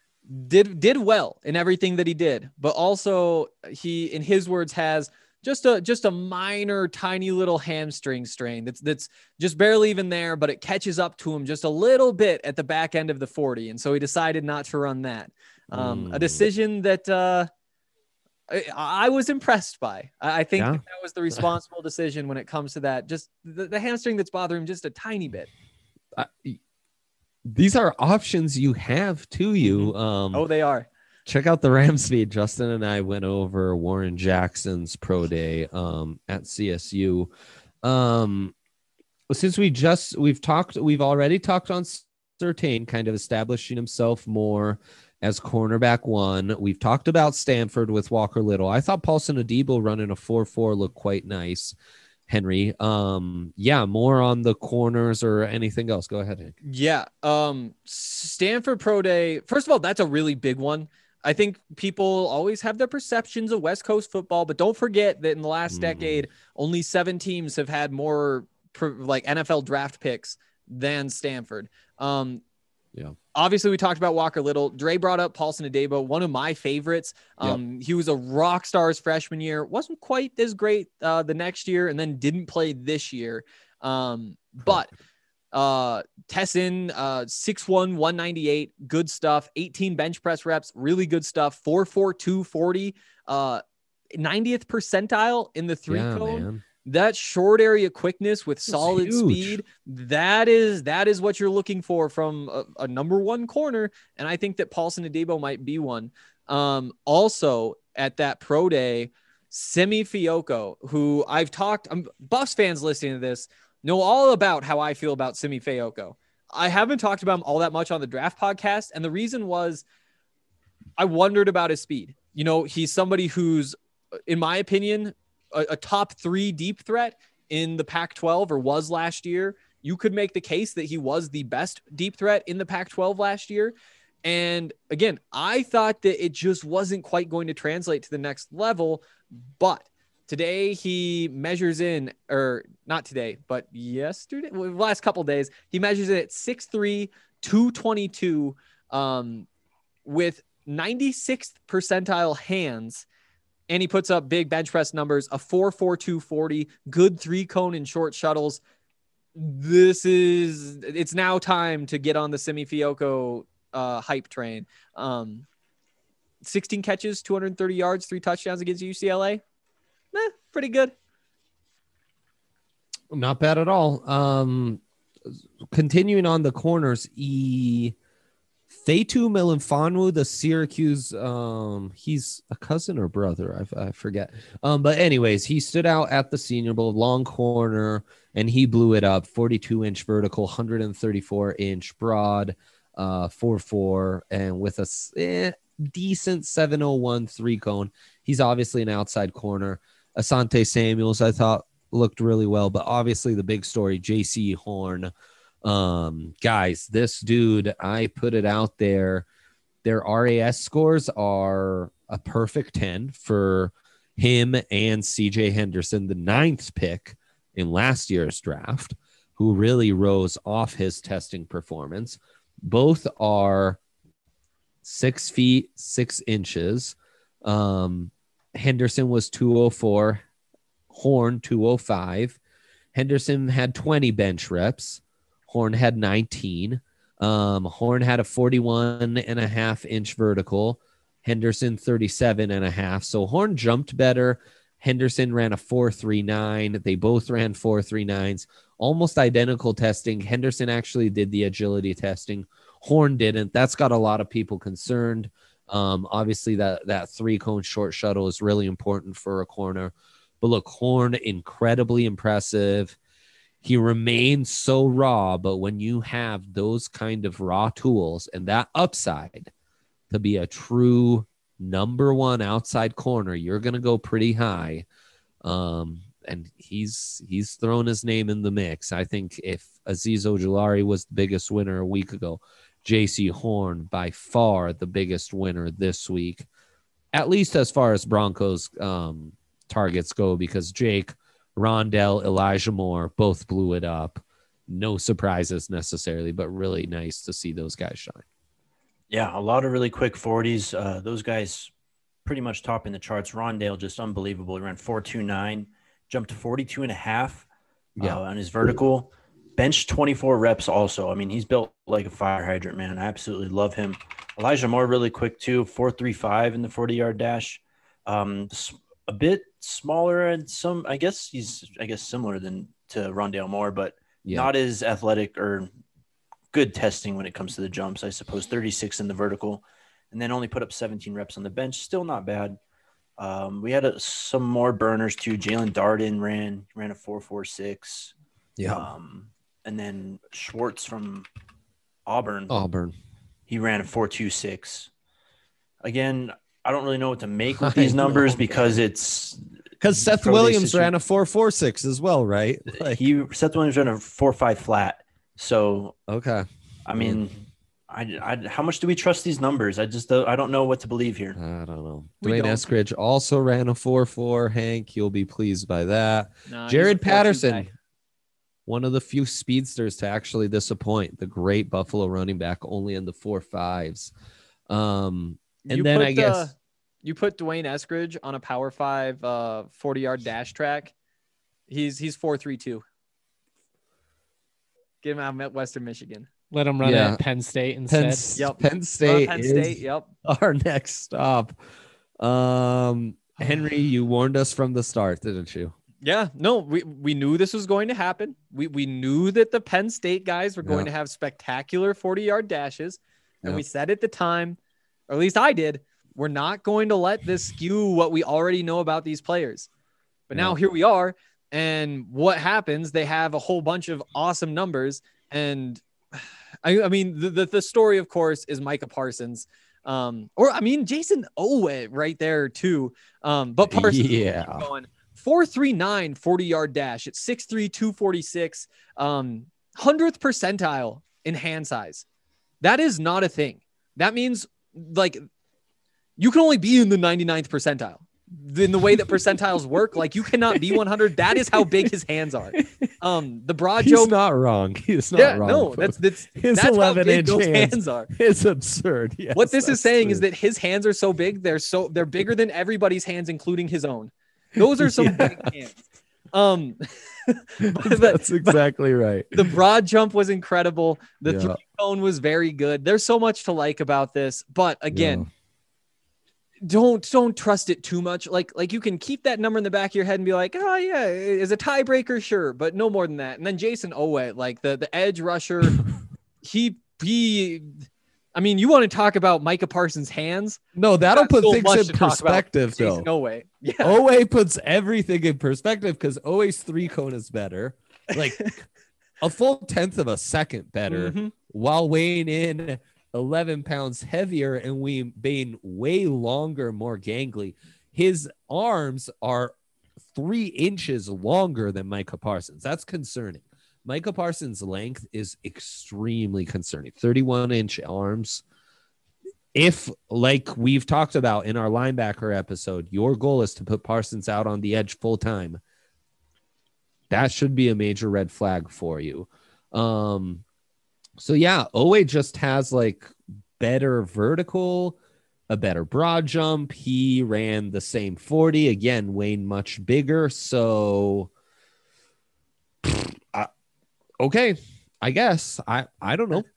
did did well in everything that he did, but also he, in his words, has just a just a minor, tiny little hamstring strain that's that's just barely even there, but it catches up to him just a little bit at the back end of the forty, and so he decided not to run that. Um, a Mm. decision that uh, I, I was impressed by. I I think Yeah. that, that was the responsible decision when it comes to that. Just the, the hamstring that's bothering him just a tiny bit. Uh, these are options you have to you. Um, Oh, they are. check out the Rams feed. Justin and I went over Warren Jackson's pro day um, at C S U. Um, since we just we've talked, we've already talked on Surtain kind of establishing himself more as cornerback one. We've talked about Stanford with Walker Little. I thought Paulson Adebo running a four four looked quite nice. Henry, um, yeah, more on the corners or anything else. Go ahead, Hank. Yeah. Um, Stanford Pro Day. First of all, that's a really big one. I think people always have their perceptions of West Coast football, but don't forget that in the last Mhm. decade, only seven teams have had more per, like N F L draft picks than Stanford. Um, Yeah. Obviously, we talked about Walker Little. Dre brought up Paulson Adebo, one of my favorites. Um, He was a rock star his freshman year. Wasn't quite as great uh, the next year, and then didn't play this year. Um, but uh, Tessin, uh, six one, one ninety-eight, good stuff. eighteen bench press reps, really good stuff. four four two forty, uh, ninetieth percentile in the three Yeah, cone. man. That short area quickness with solid huge. speed, that is that is what you're looking for from a, a number one corner. And I think that Paulson Adebo might be one. Um, also at that pro day, Simi Fioco, who I've talked, um, Buffs fans listening to this know all about how I feel about Simi Fioco. I haven't talked about him all that much on the draft podcast. And the reason was I wondered about his speed. You know, he's somebody who's, in my opinion, a, a top three deep threat in the Pac twelve, or was last year. you could make the case that he was the best deep threat in the Pac twelve last year. And again, I thought that it just wasn't quite going to translate to the next level, but today he measures in, or not today, but yesterday, well, last couple of days, he measures it at six three, two twenty-two, um, with ninety-sixth percentile hands. And he puts up big bench press numbers, a four four two forty, good three cone and short shuttles. This is, it's now time to get on the Simi Fioco uh, hype train. Um, sixteen catches, two hundred thirty yards, three touchdowns against U C L A. Eh, pretty good. Not bad at all. Um, continuing on the corners, E. Fatu Melifonwu, the Syracuse, um, he's a cousin or brother, I, I forget. Um, but anyways, he stood out at the Senior Bowl, long corner, and he blew it up. forty-two inch vertical, one hundred thirty-four inch broad, uh, four four, and with a eh, decent seven oh one three cone. He's obviously an outside corner. Asante Samuels, I thought, looked really well, but obviously the big story, J C Horn. Um, guys, this dude, I put it out there. Their R A S scores are a perfect ten for him and C J Henderson, the ninth pick in last year's draft, who really rose off his testing performance. Both are six feet, six inches. Um, Henderson was two oh four, Horn two oh five. Henderson had twenty bench reps. Horn had nineteen. Um, Horn had a forty-one and a half inch vertical. Henderson thirty-seven and a half. So Horn jumped better. Henderson ran a four three nine. They both ran four three nines. Almost identical testing. Henderson actually did the agility testing. Horn didn't. That's got a lot of people concerned. Um, obviously, that, that three-cone short shuttle is really important for a corner. But look, Horn, incredibly impressive. He remains so raw, but when you have those kind of raw tools and that upside to be a true number one outside corner, you're going to go pretty high. Um, and he's he's thrown his name in the mix. I think if Azeez Ojulari was the biggest winner a week ago, J C Horn by far the biggest winner this week, at least as far as Broncos um, targets go, because Jake, Rondell, Elijah Moore both blew it up. No surprises necessarily, but really nice to see those guys shine. Yeah, a lot of really quick forties. Uh, those guys pretty much topping the charts. Rondale, just unbelievable. He ran four two nine, jumped to forty-two and a half Yeah. uh, on his vertical. Bench twenty-four reps also. I mean, he's built like a fire hydrant, man. I absolutely love him. Elijah Moore, really quick too, four three five in the forty-yard dash. Um, a bit smaller and some, I guess he's, I guess, similar than to Rondale Moore, but Yeah. not as athletic or good testing when it comes to the jumps, I suppose. thirty-six in the vertical, and then only put up seventeen reps on the bench. Still not bad. Um, we had a, some more burners too. Jalen Darden ran ran a four four six. Yeah. Um, and then Schwartz from Auburn, Auburn. he ran a four two six. Again, I don't really know what to make with I these numbers know, because it's Because Seth pro day Williams situ- ran a four four six as well, right? Like, he Seth Williams ran a four five flat. So okay. I mean, I, I how much do we trust these numbers? I just don't, I don't know what to believe here. I don't know. We Dwayne don't. Eskridge also ran a four four. Hank, you'll be pleased by that. Nah, he's Jared a four two Patterson, guy. one of the few speedsters to actually disappoint. The great Buffalo running back, only in the four fives. Um, and You then put I guess the- you put Dwayne Eskridge on a Power Five uh, forty-yard dash track. He's he's four three two. Get him out of Western Michigan. Let him run Yeah. at Penn State Penn, instead. Yep. Penn Uh, State, Penn is State. Yep. our next stop. Um, Henry, you warned us from the start, didn't you? Yeah. No, we, we knew this was going to happen. We we knew that the Penn State guys were going Yeah. to have spectacular forty-yard dashes. And Yeah. we said at the time, or at least I did, we're not going to let this skew what we already know about these players. But now Yeah. here we are. And what happens? They have a whole bunch of awesome numbers. And I, I mean, the, the, the story, of course, is Micah Parsons. Um, or I mean, Jason Owe right there too. Um, but Parsons Yeah. keep going four three nine forty yard dash at six three, two forty-six. Um, hundredth percentile in hand size. That is not a thing. That means like you can only be in the ninety-ninth percentile. In the way that percentiles work, like you cannot be one hundred. That is how big his hands are. Um, the broad He's jump. not wrong. He's not Yeah, wrong. no, folks. that's that's his that's how eleven big inch those hands, hands are. It's absurd. Yes, What this is that's saying true. is that his hands are so big, they're so they're bigger than everybody's hands, including his own. Those are some Yeah. big hands. Um, but the, that's exactly right. the broad jump was incredible. The Yeah. three cone was very good. There's so much to like about this, but again, Yeah. don't don't trust it too much. Like like you can keep that number in the back of your head and be like, oh yeah, is a tiebreaker, sure, but no more than that. And then Jason Owe, like the the edge rusher, he he. I mean, you want to talk about Micah Parsons' hands? No, that'll Got put so things much in to talk about perspective, though. Jason Owe. Yeah. Owe puts everything in perspective because Owe's three cone is better, like a full tenth of a second better, Mhm. while weighing in eleven pounds heavier and we being way longer, more gangly. His arms are three inches longer than Micah Parsons. That's concerning. Micah Parsons' length is extremely concerning. thirty-one inch arms. If, like we've talked about in our linebacker episode, your goal is to put Parsons out on the edge full time, that should be a major red flag for you. Um, so yeah, Owe just has like better vertical, a better broad jump. He ran the same forty, again, Wayne much bigger. So uh, okay, I guess I I don't know.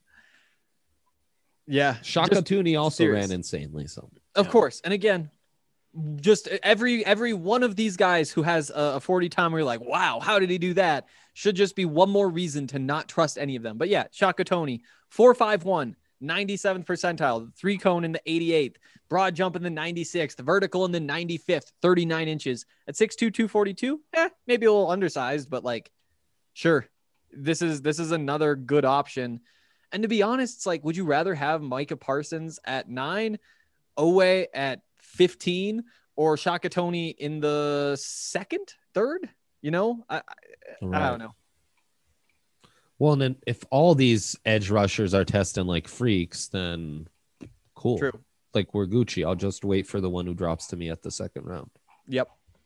Yeah. Shaka just Tooney also serious. ran insanely. So Of Yeah. course. And again, just every every one of these guys who has a, a forty time where you're like, wow, how did he do that? Should just be one more reason to not trust any of them. But yeah, Shaka Tony, four five one, ninety-seventh percentile, three cone in the eighty-eighth, broad jump in the ninety-sixth, vertical in the ninety-fifth, thirty-nine inches at six two, two forty-two. Eh, maybe a little undersized, but like, sure. This is this is another good option. And to be honest, it's like, would you rather have Micah Parsons at nine, Owe at fifteen, or Shaka Tony in the second, third? You know, I, I, I don't know. Well, and then if all these edge rushers are testing like freaks, then cool. True. Like we're Gucci. I'll just wait for the one who drops to me at the second round. Yep.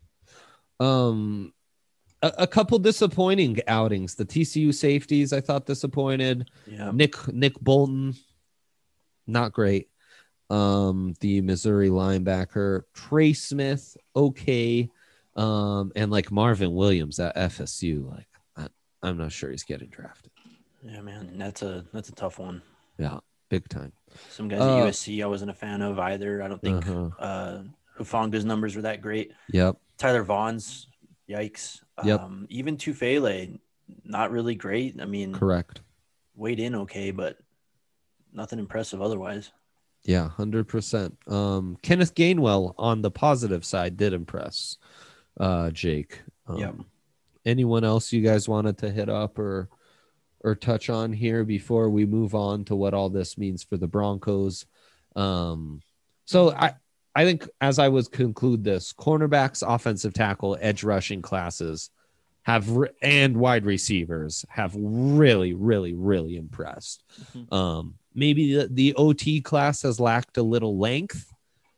Um, a, a couple disappointing outings. The T C U safeties, I thought disappointed. Yeah. Nick Nick Bolton, not great. Um, the Missouri linebacker Trey Smith, okay. Um, and like Marvin Williams at F S U, like I, I'm not sure he's getting drafted. Yeah, man, that's a that's a tough one. Yeah, big time. Some guys Uh, at U S C I wasn't a fan of either. I don't think Uh-huh. uh, Hufanga's numbers were that great. Yep. Tyler Vaughn's, yikes. Yep. Um, even Tufele, not really great. I mean, Correct. weighed in okay, but nothing impressive otherwise. Yeah, one hundred percent. Um, Kenneth Gainwell on the positive side did impress uh, Jake. Um, Yep. Anyone else you guys wanted to hit up or or touch on here before we move on to what all this means for the Broncos? Um, so I, I think as I would conclude this, cornerbacks, offensive tackle, edge rushing classes have re- and wide receivers have really, really, really impressed. Mhm. Um, maybe the, the O T class has lacked a little length,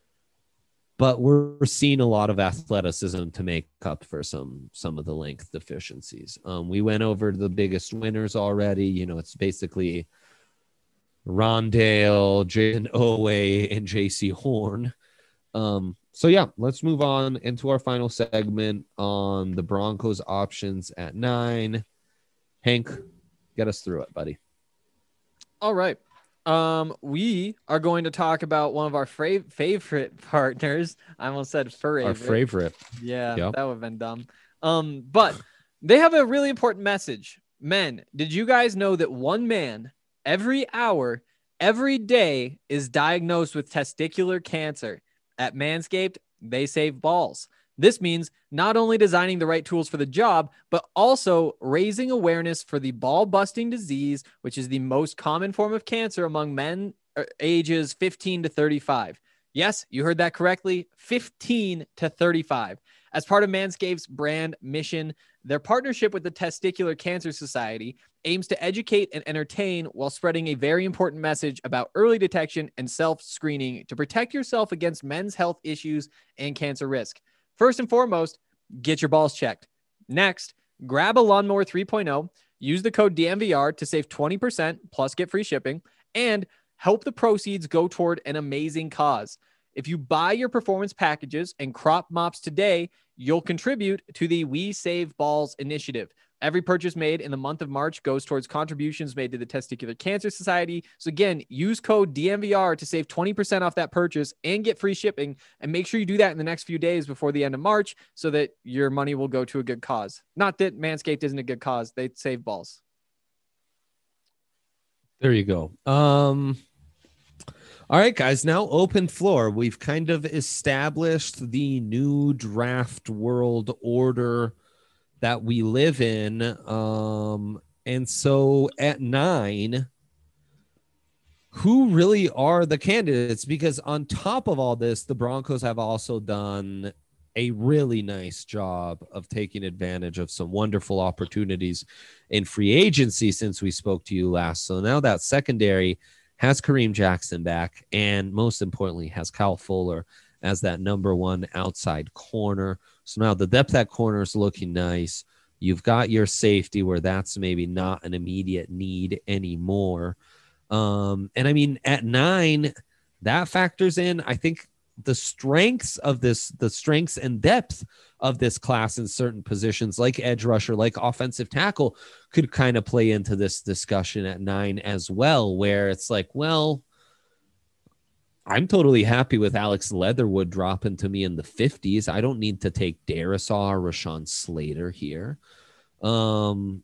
but we're seeing a lot of athleticism to make up for some some of the length deficiencies. Um, we went over the biggest winners already. You know, it's basically Rondale, Jason Owe, and J C Horn. Um, so yeah, let's move on into our final segment on the Broncos options at nine. Hank, get us through it, buddy. All right. Um, we are going to talk about one of our fra- favorite partners. I almost said favorite. Our favorite. Yeah, Yep. that would have been dumb. Um, but they have a really important message. Men, did you guys know that one man every hour, every day is diagnosed with testicular cancer? At Manscaped, they save balls. This means not only designing the right tools for the job, but also raising awareness for the ball-busting disease, which is the most common form of cancer among men uh, ages fifteen to thirty-five. Yes, you heard that correctly, fifteen to thirty-five. As part of Manscaped's brand mission, their partnership with the Testicular Cancer Society aims to educate and entertain while spreading a very important message about early detection and self-screening to protect yourself against men's health issues and cancer risk. First and foremost, get your balls checked. Next, grab a Lawnmower three point oh, use the code D M V R to save twenty percent plus get free shipping, and help the proceeds go toward an amazing cause. If you buy your performance packages and crop mops today, you'll contribute to the We Save Balls initiative. Every purchase made in the month of March goes towards contributions made to the Testicular Cancer Society. So again, use code D M V R to save twenty percent off that purchase and get free shipping. And make sure you do that in the next few days before the end of March so that your money will go to a good cause. Not that Manscaped isn't a good cause. They save balls. There you go. Um, all right, guys, now open floor. We've kind of established the new draft world order that we live in. Um, and so at nine, who really are the candidates? Because on top of all this, the Broncos have also done a really nice job of taking advantage of some wonderful opportunities in free agency since we spoke to you last. So now that secondary has Kareem Jackson back, and most importantly, has Kyle Fuller as that number one outside corner. So now the depth at corner is looking nice. You've got your safety where that's maybe not an immediate need anymore. Um, and I mean, at nine, that factors in, I think, the strengths of this, the strengths and depth of this class in certain positions like edge rusher, like offensive tackle, could kind of play into this discussion at nine as well, where it's like, well, I'm totally happy with Alex Leatherwood dropping to me in the fifties. I don't need to take Darisaw or Rashawn Slater here. Um,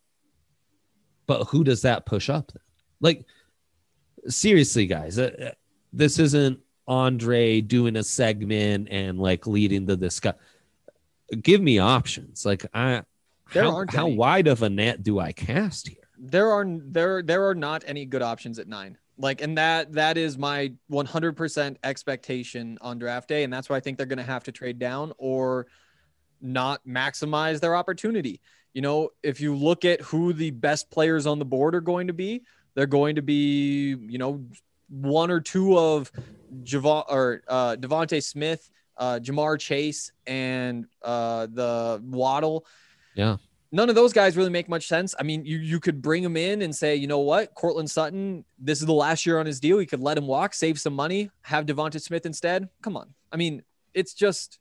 but who does that push up then? Like, seriously, guys, uh, this isn't Andre doing a segment and like leading the discussion. Give me options. Like, I, There how, aren't how any. wide of a net do I cast here? There are there there are not any good options at nine. Like, and that that is my one hundred percent expectation on draft day, and that's why I think they're going to have to trade down or not maximize their opportunity. You know, if you look at who the best players on the board are going to be, they're going to be, you know, one or two of Javon or uh, Devontae Smith, uh, Jamar Chase, and uh, the Waddle. Yeah. None of those guys really make much sense. I mean, you you could bring him in and say, you know what, Cortland Sutton, this is the last year on his deal. You could let him walk, save some money, have Devonta Smith instead. Come on. I mean, it's just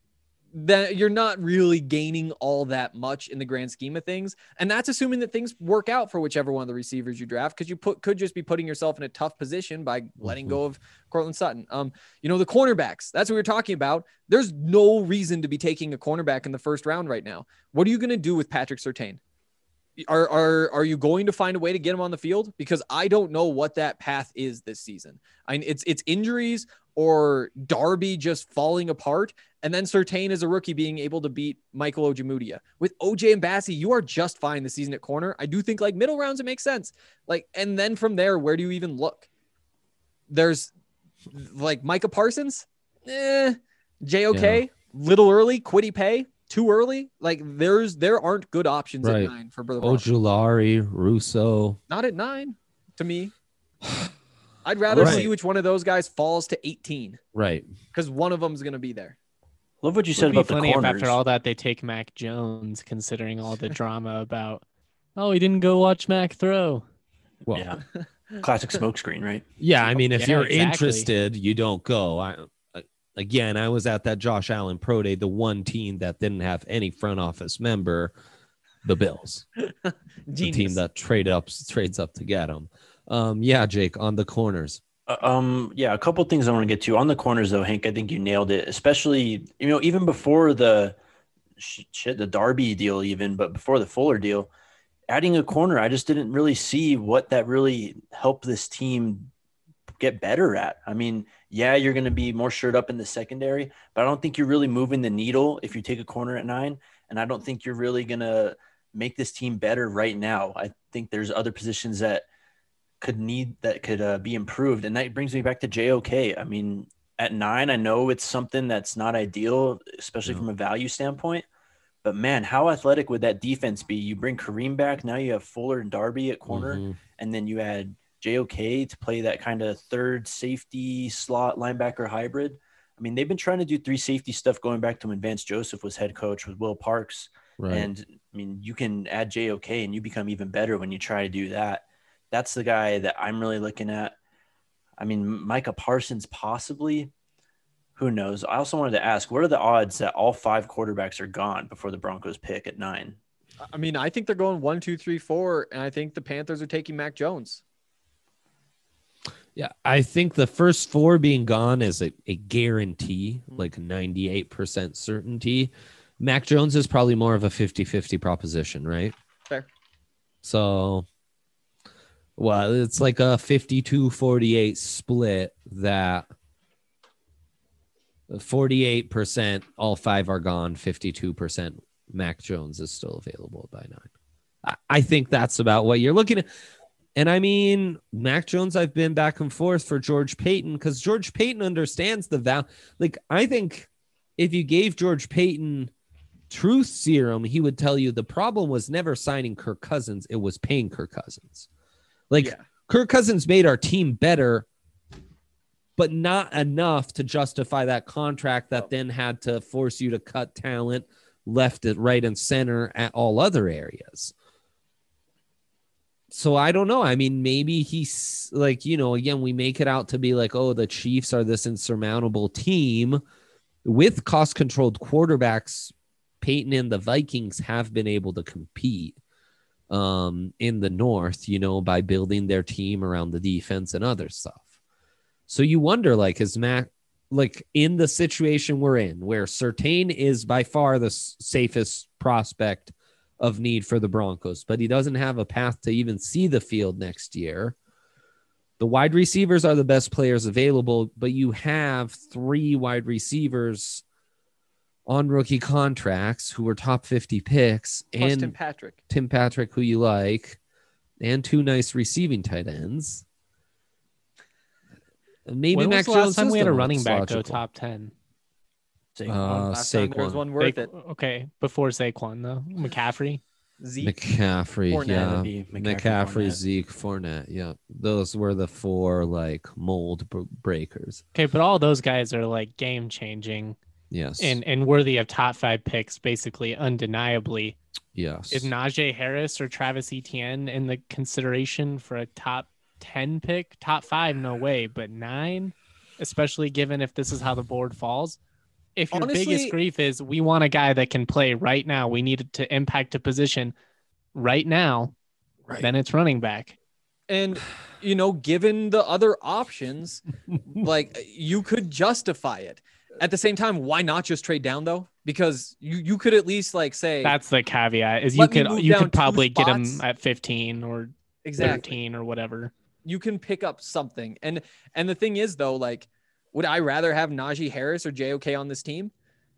that you're not really gaining all that much in the grand scheme of things. And that's assuming that things work out for whichever one of the receivers you draft, because you put could just be putting yourself in a tough position by letting Mhm. go of Cortland Sutton. Um, you know, the cornerbacks, that's what we were talking about. There's no reason to be taking a cornerback in the first round right now. What are you going to do with Patrick Surtain? Are, are, are you going to find a way to get him on the field? Because I don't know what that path is this season. I mean, it's, it's injuries or Darby just falling apart. And then Surtain as a rookie being able to beat Michael Ojemudia. With O J and Bassie, you are just fine this season at corner. I do think like middle rounds, it makes sense. Like, and then from there, where do you even look? There's like Micah Parsons, eh, J O K, Yeah. little early, Quiddy Pay, too early. Like there's, there aren't good options Right. at nine for Brother Broncos. Ojulari, Russo. Not at nine to me. I'd rather Right. see which one of those guys falls to eighteen Right. because one of them is going to be there. Love what you It said would be about the funny if corners. after all that they take Mac Jones, considering all the drama about, oh, he didn't go watch Mac throw. Well, Yeah. Classic smokescreen, right? Yeah, I mean, if Yeah, you're exactly. interested, you don't go. I, I again, I was at that Josh Allen Pro Day, the one team that didn't have any front office member, the Bills, the team Genius. that trade up trades up to get them. Um, yeah, Jake, on the corners. Uh, Um, yeah, a couple things I want to get to on the corners though, Hank. I think you nailed it, especially, you know, even before the sh- shit, the Darby deal, even, but before the Fuller deal, adding a corner, I just didn't really see what that really helped this team get better at. I mean, yeah, you're going to be more shored up in the secondary, but I don't think you're really moving the needle if you take a corner at nine. And I don't think you're really going to make this team better right now. I think there's other positions that could need that could uh, be improved. And that brings me back to J O K. I mean, at nine, I know it's something that's not ideal, especially No. from a value standpoint. But man, how athletic would that defense be? You bring Kareem back. Now you have Fuller and Darby at corner, Mhm. and then you add J O K to play that kind of third safety slot linebacker hybrid. I mean, they've been trying to do three safety stuff going back to when Vance Joseph was head coach with Will Parks. Right. And I mean, you can add J O K and you become even better when you try to do that. That's the guy that I'm really looking at. I mean, Micah Parsons possibly. Who knows? I also wanted to ask, what are the odds that all five quarterbacks are gone before the Broncos pick at nine? I mean, I think they're going one, two, three, four, and I think the Panthers are taking Mac Jones. Yeah, I think the first four being gone is a, a guarantee, like ninety-eight percent certainty. Mac Jones is probably more of a fifty-fifty proposition, right? Fair. So, well, it's like a fifty-two forty-eight split that forty-eight percent all five are gone, fifty-two percent Mac Jones is still available by nine. I, I think that's about what you're looking at. And I mean, Mac Jones, I've been back and forth for George Payton because George Payton understands the value. Like, I think if you gave George Payton truth serum, he would tell you the problem was never signing Kirk Cousins. It was paying Kirk Cousins. Like, Yeah. Kirk Cousins made our team better, but not enough to justify that contract that then had to force you to cut talent left, right, and center at all other areas. So I don't know. I mean, maybe he's like, you know, again, we make it out to be like, oh, the Chiefs are this insurmountable team with cost controlled quarterbacks. Peyton and the Vikings have been able to compete um, in the North, you know, by building their team around the defense and other stuff. So you wonder, like, is Mac like in the situation we're in where Surtain is by far the s- safest prospect of need for the Broncos, but he doesn't have a path to even see the field next year. The wide receivers are the best players available, but you have three wide receivers on rookie contracts who were top fifty picks, Plus and Tim Patrick. Tim Patrick, who you like, and two nice receiving tight ends. Maybe When Mac was the last Jones time is we had the a one running that's back go logical. top ten? Uh, Last time there was Saquon. one worth Sa- it. Okay, before Saquon though, McCaffrey. Zeke. McCaffrey, Fournette yeah, would be McCaffrey, McCaffrey, Fournette. Zeke, Fournette, yeah, those were the four like mold b- breakers. Okay, but all those guys are like game changing Yes, and and worthy of top five picks, basically undeniably. yes, Is Najee Harris or Travis Etienne in the consideration for a top ten pick? Top five, no way, but nine, especially given if this is how the board falls. If your Honestly- biggest grief is we want a guy that can play right now, we needed to impact a position right now, right. then it's running back. And, you know, given the other options, like you could justify it. At the same time, why not just trade down though? Because you you could at least like say That's the caveat. Is you Let me could move you down could two probably get him spots. at fifteen or exactly thirteen or whatever. you can pick up something. And and the thing is though, like, would I rather have Najee Harris or J O K on this team?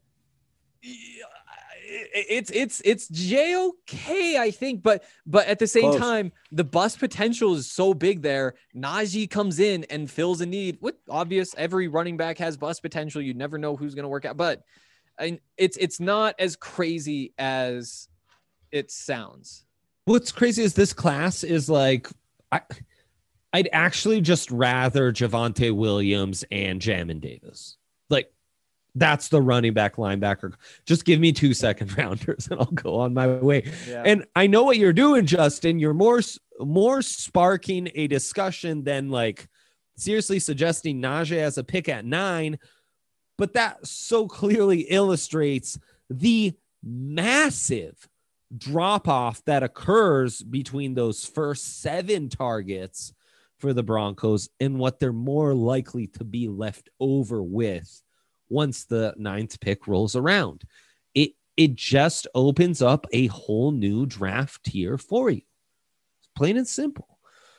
Yeah, It's it's it's J O K, I think, but but at the same Close. time, the bust potential is so big there. Najee comes in and fills a need. With obvious, every running back has bust potential. You never know who's going to work out, but I mean, it's it's not as crazy as it sounds. What's crazy is this class is like, I, I'd actually just rather Javonte Williams and Jamin Davis. Like, that's the running back linebacker. Just give me two second rounders and I'll go on my way. Yeah. And I know what you're doing, Justin. You're more more sparking a discussion than like seriously suggesting Najee as a pick at nine. But that so clearly illustrates the massive drop off that occurs between those first seven targets for the Broncos and what they're more likely to be left over with once the ninth pick rolls around. It it just opens up a whole new draft tier for you. It's plain and simple.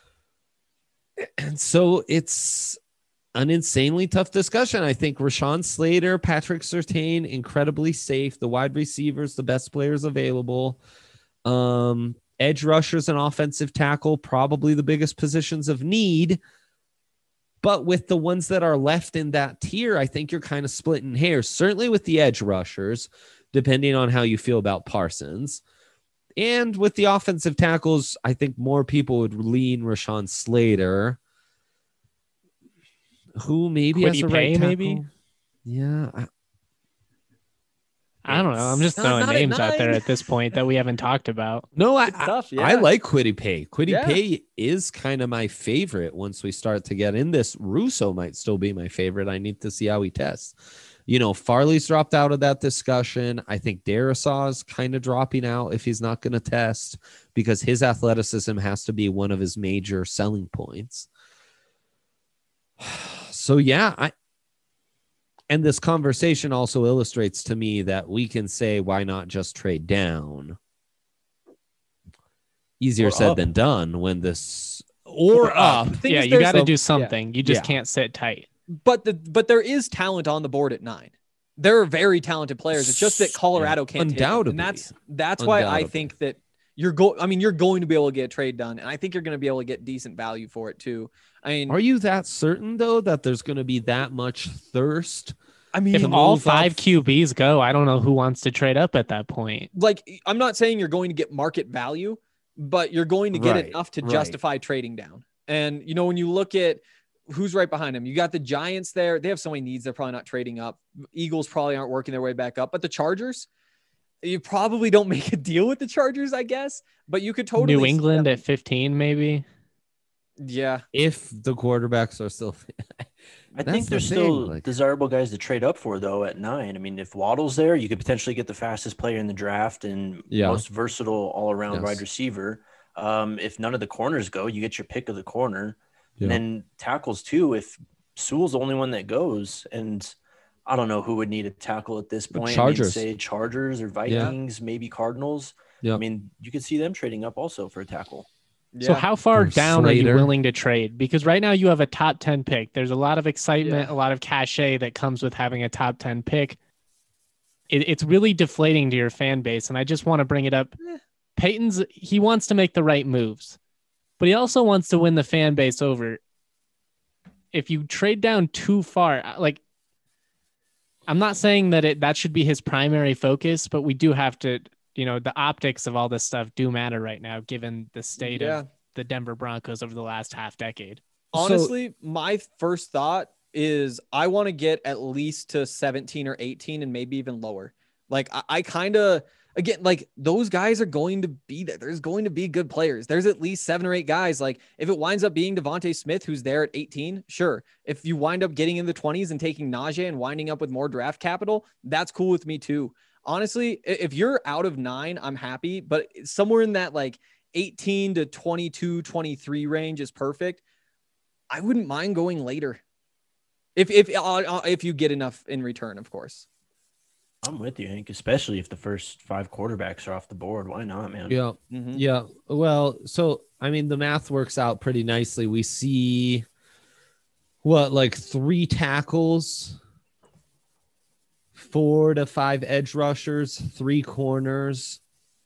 And so it's an insanely tough discussion. I think Rashawn Slater, Patrick Surtain, incredibly safe. The wide receivers, the best players available. Um, edge rushers and offensive tackle, probably the biggest positions of need. But with the ones that are left in that tier, I think you're kind of splitting hairs, certainly with the edge rushers, depending on how you feel about Parsons. And with the offensive tackles, I think more people would lean Rashawn Slater, who maybe Kwity has a Paye, right tackle. maybe? Yeah. I, I don't know. I'm just Not- throwing not at names out there nine. at this point that we haven't talked about. no, I, It's tough, I, I yeah. like Kwity Paye. Kwity Yeah. Paye is kind of my favorite once we start to get in this. Russo might still be my favorite. I need to see how he tests. You know, Farley's dropped out of that discussion. I think Darisaw is kind of dropping out if he's not going to test because his athleticism has to be one of his major selling points. So, yeah, I and this conversation also illustrates to me that we can say, why not just trade down? Easier Or said up. than done when this or, Or up. up. Thing Yeah, is you there's got to some- do something. You just Yeah. can't sit tight. But the but there is talent on the board at nine. There are very talented players. It's just that Colorado can't take them. Undoubtedly. And that's that's why I Undoubtedly. think that you're go. I mean, you're going to be able to get a trade done, and I think you're going to be able to get decent value for it too. I mean, Are you that certain though that there's going to be that much thirst? I mean, If to all move five up- Q Bs go, I don't know who wants to trade up at that point. like I'm not saying you're going to get market value, but you're going to get Right, enough to right. justify trading down. And you know, when you look at who's right behind them, you got the Giants there. They have so many needs. They're probably not trading up. Eagles probably aren't working their way back up, but the Chargers, you probably don't make a deal with the Chargers, I guess. But you could totally New see England them- at fifteen, maybe. yeah. If the quarterbacks are still, I That's think the there's thing, still like- desirable guys to trade up for though at nine. I mean, if Waddle's there, you could potentially get the fastest player in the draft and Yeah. most versatile all around Yes. wide receiver. Um, if none of the corners go, you get your pick of the corner. Yeah. And then tackles too. If Sewell's the only one that goes, and I don't know who would need a tackle at this The point. Chargers. I mean, say Chargers or Vikings, maybe Cardinals. Yeah. I mean, you could see them trading up also for a tackle. Yeah. So how far Or down are you Slater. willing to trade? Because right now you have a top ten pick. There's a lot of excitement, Yeah. a lot of cachet that comes with having a top ten pick. It, it's really deflating to your fan base. And I just want to bring it up. Eh. Peyton's, he wants to make the right moves, but he also wants to win the fan base over. If you trade down too far, like, I'm not saying that it that should be his primary focus, but we do have to, you know, the optics of all this stuff do matter right now, given the state Yeah. of the Denver Broncos over the last half decade. Honestly, my first thought is I want to get at least to seventeen or eighteen and maybe even lower. Like I, I kind of, again, like those guys are going to be there. There's going to be good players. There's at least seven or eight guys. Like if it winds up being Devontae Smith, who's there at eighteen, sure. If you wind up getting in the twenties and taking Najee and winding up with more draft capital, that's cool with me too. Honestly, i- if you're out of nine, I'm happy, but somewhere in that like eighteen to twenty-two, twenty-three range is perfect. I wouldn't mind going later. If if uh, if you get enough in return, of course. I'm with you, Hank, especially if the first five quarterbacks are off the board. Why not, man? yeah, Mhm. yeah. Well, so I mean, the math works out pretty nicely. We see what, like three tackles, four to five edge rushers, three corners,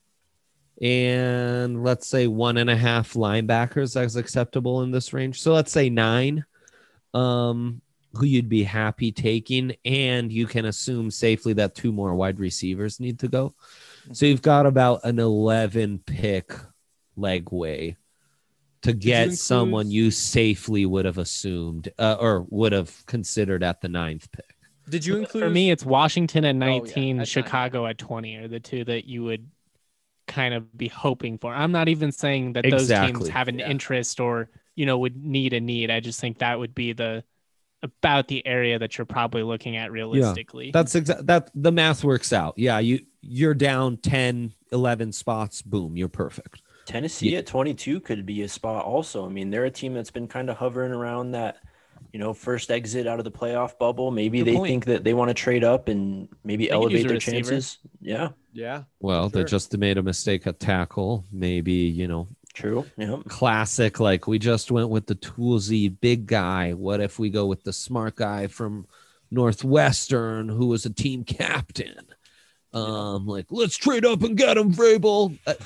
and let's say one and a half linebackers as acceptable in this range. So let's say nine, um, who you'd be happy taking, and you can assume safely that two more wide receivers need to go. So you've got about an eleven pick legway to get include- someone you safely would have assumed uh, or would have considered at the ninth pick. Did you include For me, it's Washington at yeah, nineteen, at nine. Chicago at twenty are the two that you would kind of be hoping for. I'm not even saying that those Exactly. teams have an Yeah. interest or, you know, would need a need. I just think that would be the about the area that you're probably looking at realistically. That's exactly that. The math works out. Yeah, you you're down ten, eleven spots. Boom, you're perfect. Tennessee Yeah. at twenty-two could be a spot also. I mean, they're a team that's been kind of hovering around that, you know, first exit out of the playoff bubble. Maybe Good they point. think that they want to trade up and maybe They could use elevate a their receiver. chances. Yeah, Yeah. Well, they Sure. just made a mistake at tackle. Maybe, you know, true. Yeah. classic. Like we just went with the toolsy big guy. What if we go with the smart guy from Northwestern who was a team captain? Um, like let's trade up and get him, Vrabel. Uh,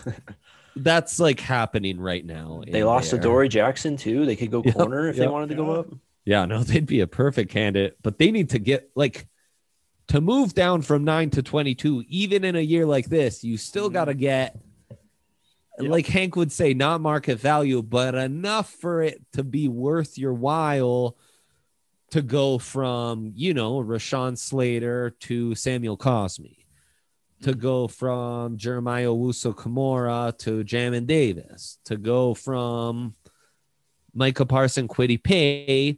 That's like happening right now. They in lost to there. Dory Jackson too. They could go Yep, corner if yep. they wanted to go Yeah. up. Yeah, no, they'd be a perfect candidate, but they need to get like to move down from nine to twenty-two, even in a year like this, you still got to get, Yep. like Hank would say, not market value, but enough for it to be worth your while to go from, you know, Rashawn Slater to Samuel Cosme, to go from Jeremiah Owusu-Kamara to Jamin Davis, to go from Micah Parson Kwity Paye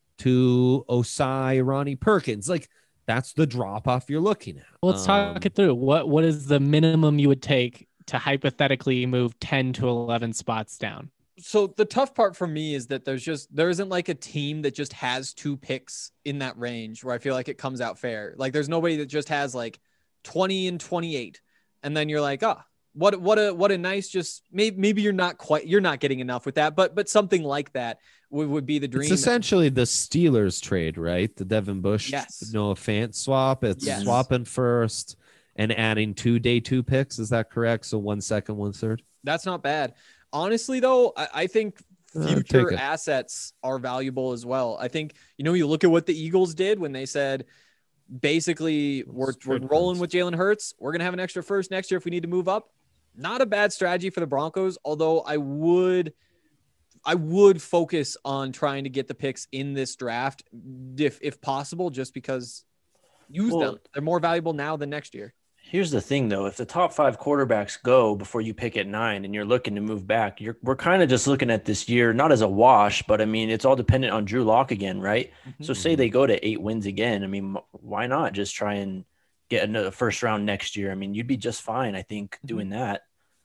to Osai Ronnie Perkins. Like, that's the drop off you're looking at. Well, let's talk Um, it through. What what is the minimum you would take to hypothetically move ten to eleven spots down? So the tough part for me is that there's just there isn't like a team that just has two picks in that range where I feel like it comes out fair. Like there's nobody that just has like twenty and twenty-eight, and then you're like, oh, what what a what a nice just maybe maybe you're not quite you're not getting enough with that, but but something like that would, would be the dream. It's essentially the Steelers trade, right? The Devin Bush, Yes. Noah Fant swap. It's Yes. swapping first and adding two day two picks. Is that correct? So one second, one third. That's not bad. Honestly, though, I, I think Uh, future take it. assets are valuable as well. I think, you know, you look at what the Eagles did when they said, basically, we're, we're trade rolling Hurts. with Jalen Hurts. We're going to have an extra first next year if we need to move up. Not a bad strategy for the Broncos, although I would I would focus on trying to get the picks in this draft if if possible, just because use Well- them. They're more valuable now than next year. Here's the thing, though. If the top five quarterbacks go before you pick at nine and you're looking to move back, you're we're kind of just looking at this year, not as a wash, but I mean, it's all dependent on Drew Lock again, right? So say they go to eight wins again. I mean, m- why not just try and get another first round next year? I mean, you'd be just fine, I think, doing that.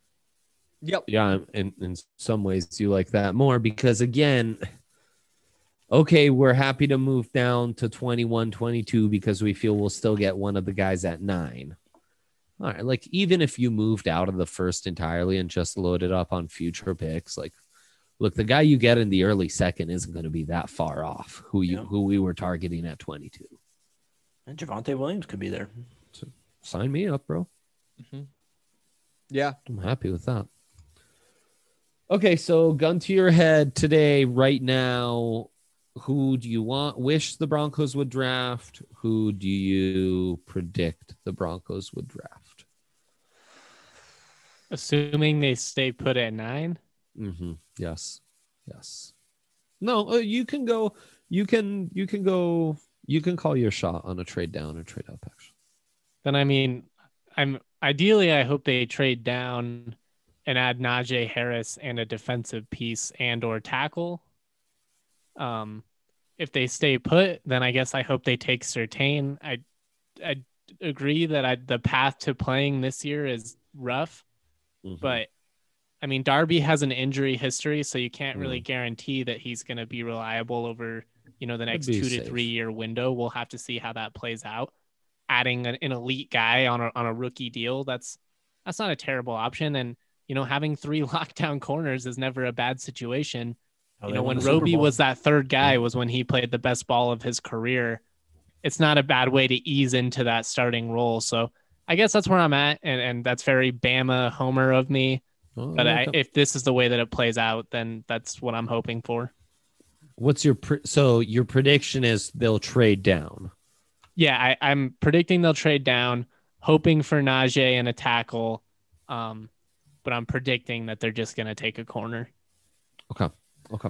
Yep. Yeah, in, in some ways you like that more because again, okay, we're happy to move down to twenty-one, twenty-two because we feel we'll still get one of the guys at nine. All right, like even if you moved out of the first entirely and just loaded up on future picks, like look, the guy you get in the early second isn't going to be that far off who you Yeah. who we were targeting at twenty-two. And Javonte Williams could be there. Sign me up, bro. Yeah. I'm happy with that. Okay, so gun to your head today, right now, who do you want, wish the Broncos would draft? Who do you predict the Broncos would draft? Assuming they stay put at nine. Mm-hmm. Yes. Yes. No, uh, you can go, you can, you can go, you can call your shot on a trade down or trade up, actually. Then I mean, I'm ideally I hope they trade down and add Najee Harris and a defensive piece and or tackle. Um, if they stay put, then I guess I hope they take Surtain. I I agree that I, the path to playing this year is rough, Mhm. but I mean Darby has an injury history, so you can't really Mm. guarantee that he's going to be reliable over you know the next be two safe. to three year window. We'll have to see how that plays out. Adding an, an elite guy on a on a rookie deal, that's that's not a terrible option. And you know, having three lockdown corners is never a bad situation. Oh, You they know, won when the Super Roby Bowl. was that third guy was when he played the best ball of his career. It's not a bad way to ease into that starting role. So I guess that's where I'm at. And, and that's very Bama Homer of me. Oh, But I, like that. if this is the way that it plays out, then that's what I'm hoping for. What's your, pre- so your prediction is they'll trade down. Yeah, I, I'm predicting they'll trade down, hoping for Najee and a tackle. Um, but I'm predicting that they're just going to take a corner. Okay. Okay.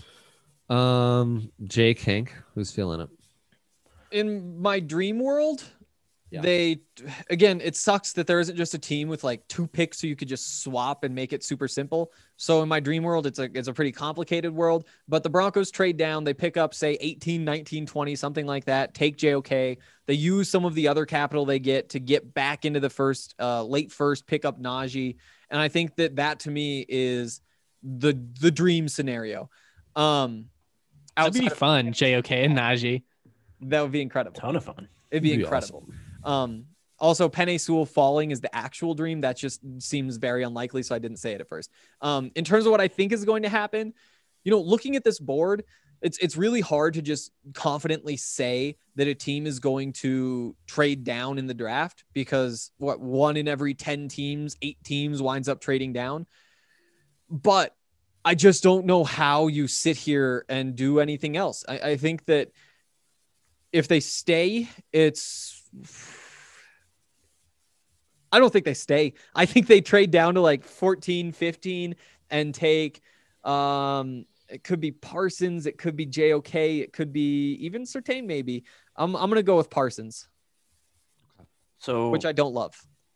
Um, Jake, Hank, who's feeling it? In my dream world, Yeah. they again, it sucks that there isn't just a team with like two picks so you could just swap and make it super simple. So in my dream world, it's a it's a pretty complicated world, but the Broncos trade down, they pick up say eighteen, nineteen, twenty, something like that, take J O K. They use some of the other capital they get to get back into the first uh late first, pick up Najee, and I think that that to me is the the dream scenario. Um That'd be outside of- fun, J O K and Najee. that would be incredible. Ton of fun. It'd be It'd be incredible. Um, also, Penei Sewell falling is the actual dream. That just seems very unlikely, so I didn't say it at first. Um, in terms of what I think is going to happen, you know, looking at this board, it's it's really hard to just confidently say that a team is going to trade down in the draft because what one in every ten teams, eight teams winds up trading down. But I just don't know how you sit here and do anything else. I, I think that if they stay, it's, I don't think they stay. I think they trade down to like fourteen, fifteen and take, um, it could be Parsons. It could be J O K. It could be even Surtain. Maybe I'm, I'm going to go with Parsons. So, which I don't love.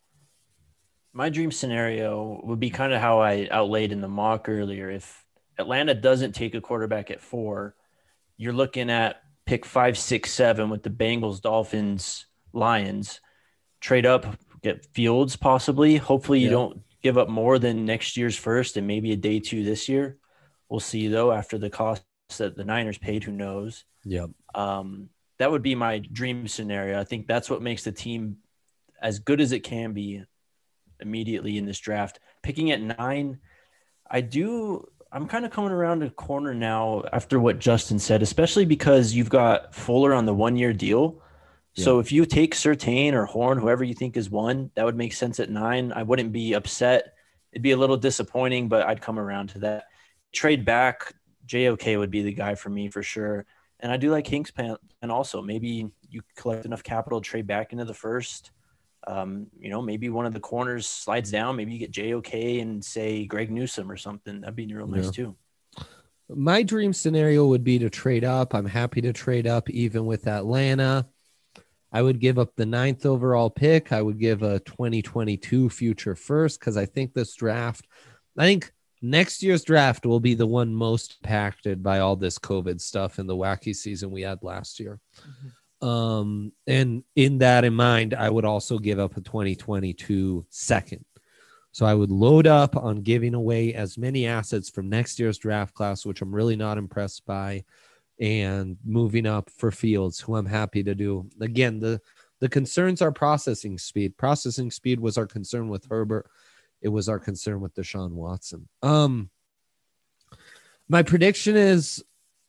My dream scenario would be kind of how I outlaid in the mock earlier. If Atlanta doesn't take a quarterback at four, you're looking at pick five, six, seven with the Bengals, Dolphins, Lions. Trade up, get Fields possibly. Hopefully you Yeah. don't give up more than next year's first and maybe a day two this year. We'll see, though, after the cost that the Niners paid. Who knows? Yep. Um, that would be my dream scenario. I think that's what makes the team as good as it can be immediately in this draft. Picking at nine, I do – I'm kind of coming around a corner now after what Justin said, especially because you've got Fuller on the one-year deal. Yeah. So if you take Surtain or Horn, whoever you think is one, that would make sense at nine. I wouldn't be upset. It'd be a little disappointing, but I'd come around to that. Trade back, J O K would be the guy for me for sure. And I do like Hingspan, and also maybe you collect enough capital to trade back into the first. Um, you know, maybe one of the corners slides down. Maybe you get J O K and say Greg Newsome or something. That'd be real nice Yeah. too. My dream scenario would be to trade up. I'm happy to trade up even with Atlanta. I would give up the ninth overall pick. I would give a twenty twenty-two future first because I think this draft, I think next year's draft will be the one most impacted by all this COVID stuff and the wacky season we had last year. Mm-hmm. Um, and in that in mind, I would also give up a twenty twenty-two second. So I would load up on giving away as many assets from next year's draft class, which I'm really not impressed by, and moving up for Fields, who I'm happy to do. Again, the, the concerns are processing speed. Processing speed was our concern with Herbert. It was our concern with Deshaun Watson. Um, my prediction is,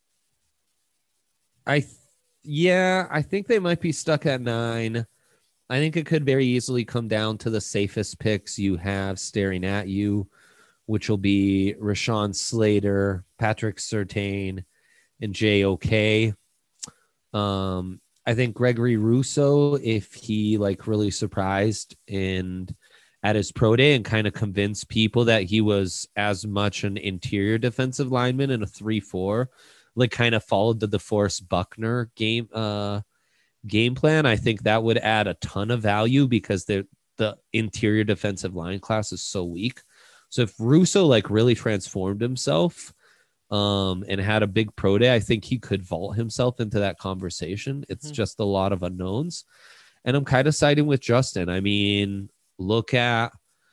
I, th- yeah, I think they might be stuck at nine. I think it could very easily come down to the safest picks you have staring at you, which will be Rashawn Slater, Patrick Surtain, and J O K. Um, I think Gregory Rousseau, if he like really surprised and at his pro day and kind of convinced people that he was as much an interior defensive lineman in a three four, like kind of followed the DeForest Buckner game uh, game plan, I think that would add a ton of value because the the interior defensive line class is so weak. So if Russo like really transformed himself um, and had a big pro day, I think he could vault himself into that conversation. It's mm-hmm. just a lot of unknowns. And I'm kind of siding with Justin. I mean, look at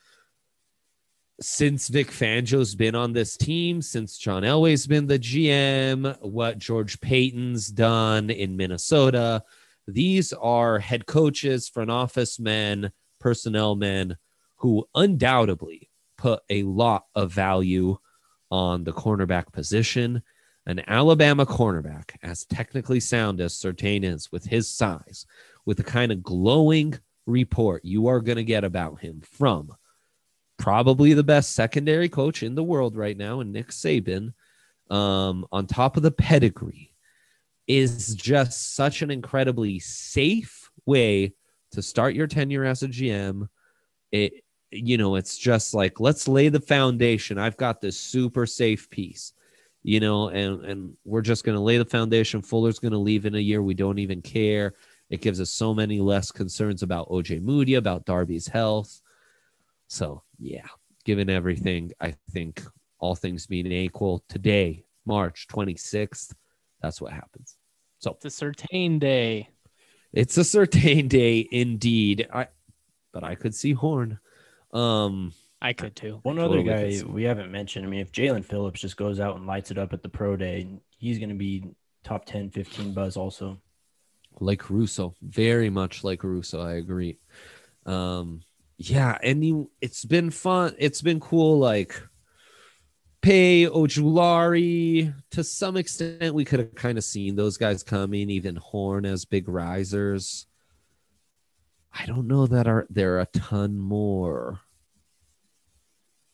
since Vic Fangio's been on this team, since John Elway's been the G M, what George Payton's done in Minnesota. These are head coaches, front office men, personnel men who undoubtedly put a lot of value on the cornerback position. An Alabama cornerback, as technically sound as Surtain is, with his size, with the kind of glowing report you are going to get about him from probably the best secondary coach in the world right now, and Nick Saban, um, on top of the pedigree, is just such an incredibly safe way to start your tenure as a G M. It, you know, it's just like, let's lay the foundation. I've got this super safe piece, you know, and, and we're just going to lay the foundation. Fuller's going to leave in a year. We don't even care. It gives us so many less concerns about O J Moody, about Darby's health. So, yeah, given everything, I think all things being equal, today, March twenty-sixth, that's what happens. So it's a certain day. It's a certain day indeed. I, but I could see Horn. Um, I could too. One totally other guy we haven't mentioned. I mean, if Jalen Phillips just goes out and lights it up at the pro day, he's going to be top ten, fifteen buzz also. Like Russo, very much like Russo. I agree. Um, yeah, and you, it's been fun. It's been cool. Like Pay, Ojulari, to some extent, we could have kind of seen those guys coming. Even Horn as big risers. I don't know that are there are a ton more.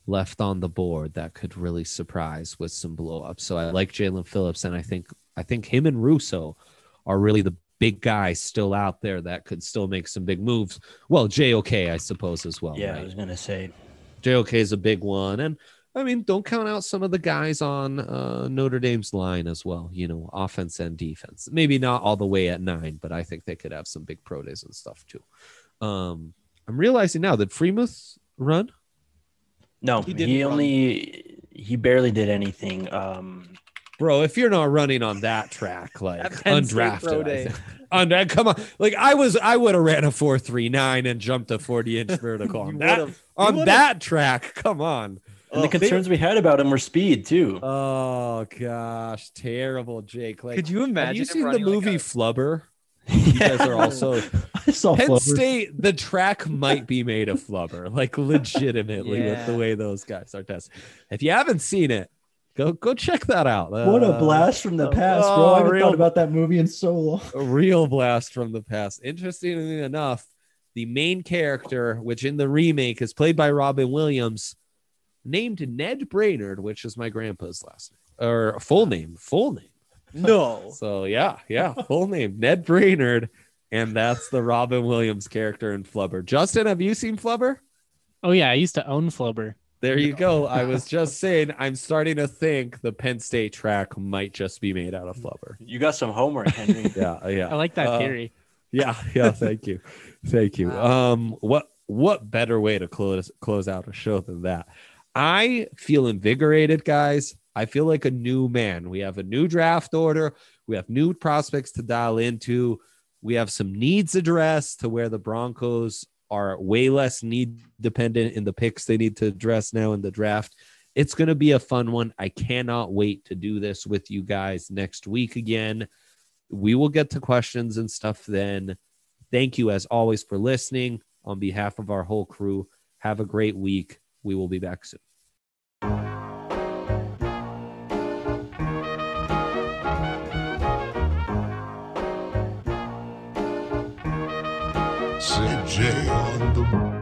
left on the board that could really surprise with some blow up. So I like Jalen Phillips, and I think I think him and Russo are really the big guys still out there that could still make some big moves. Well, J O K, I suppose, as well. Yeah, right? I was gonna say J O K is a big one, and I mean, don't count out some of the guys on uh, Notre Dame's line as well. You know, offense and defense. Maybe not all the way at nine, but I think they could have some big pro days and stuff too. Um, I'm realizing now that Freemuth run. no. He He, didn't run. only he barely did anything. Um, Bro, if you're not running on that track, like At Penn State undrafted, Pro I Day. think. Und- come on, like I was, I would have ran a four three nine and jumped a forty inch vertical on You that would've. on would've. that track. Come on. and the Oh, concerns we had about him were speed too. Oh gosh, terrible, Jake. Like, Could you imagine have you him seen the running like movie a- Flubber? You guys are also I saw Penn Flubber. State. The track might be made of flubber, like legitimately, with Yeah. the way those guys are tested. If you haven't seen it, go go check that out. What a Uh, blast from the past, bro. oh, I haven't real- thought about that movie in so long. A real blast from the past. Interestingly enough, the main character, which in the remake is played by Robin Williams, named Ned Brainerd, which is my grandpa's last name or full name, full name. No. So yeah, yeah, full name Ned Brainerd, and that's the Robin Williams character in Flubber. Justin, have you seen Flubber? Oh yeah, I used to own Flubber. There you go. I was just saying, I'm starting to think the Penn State track might just be made out of Flubber. You got some homework, Henry. Yeah, yeah. I like that Uh, theory. Yeah, yeah. Thank you, thank you. Um, what what better way to close close out a show than that? I feel invigorated, guys. I feel like a new man. We have a new draft order. We have new prospects to dial into. We have some needs addressed to where the Broncos are way less need dependent in the picks they need to address now in the draft. It's going to be a fun one. I cannot wait to do this with you guys next week again. We will get to questions and stuff then. Thank you, as always, for listening. On behalf of our whole crew, have a great week. We will be back soon. C J on the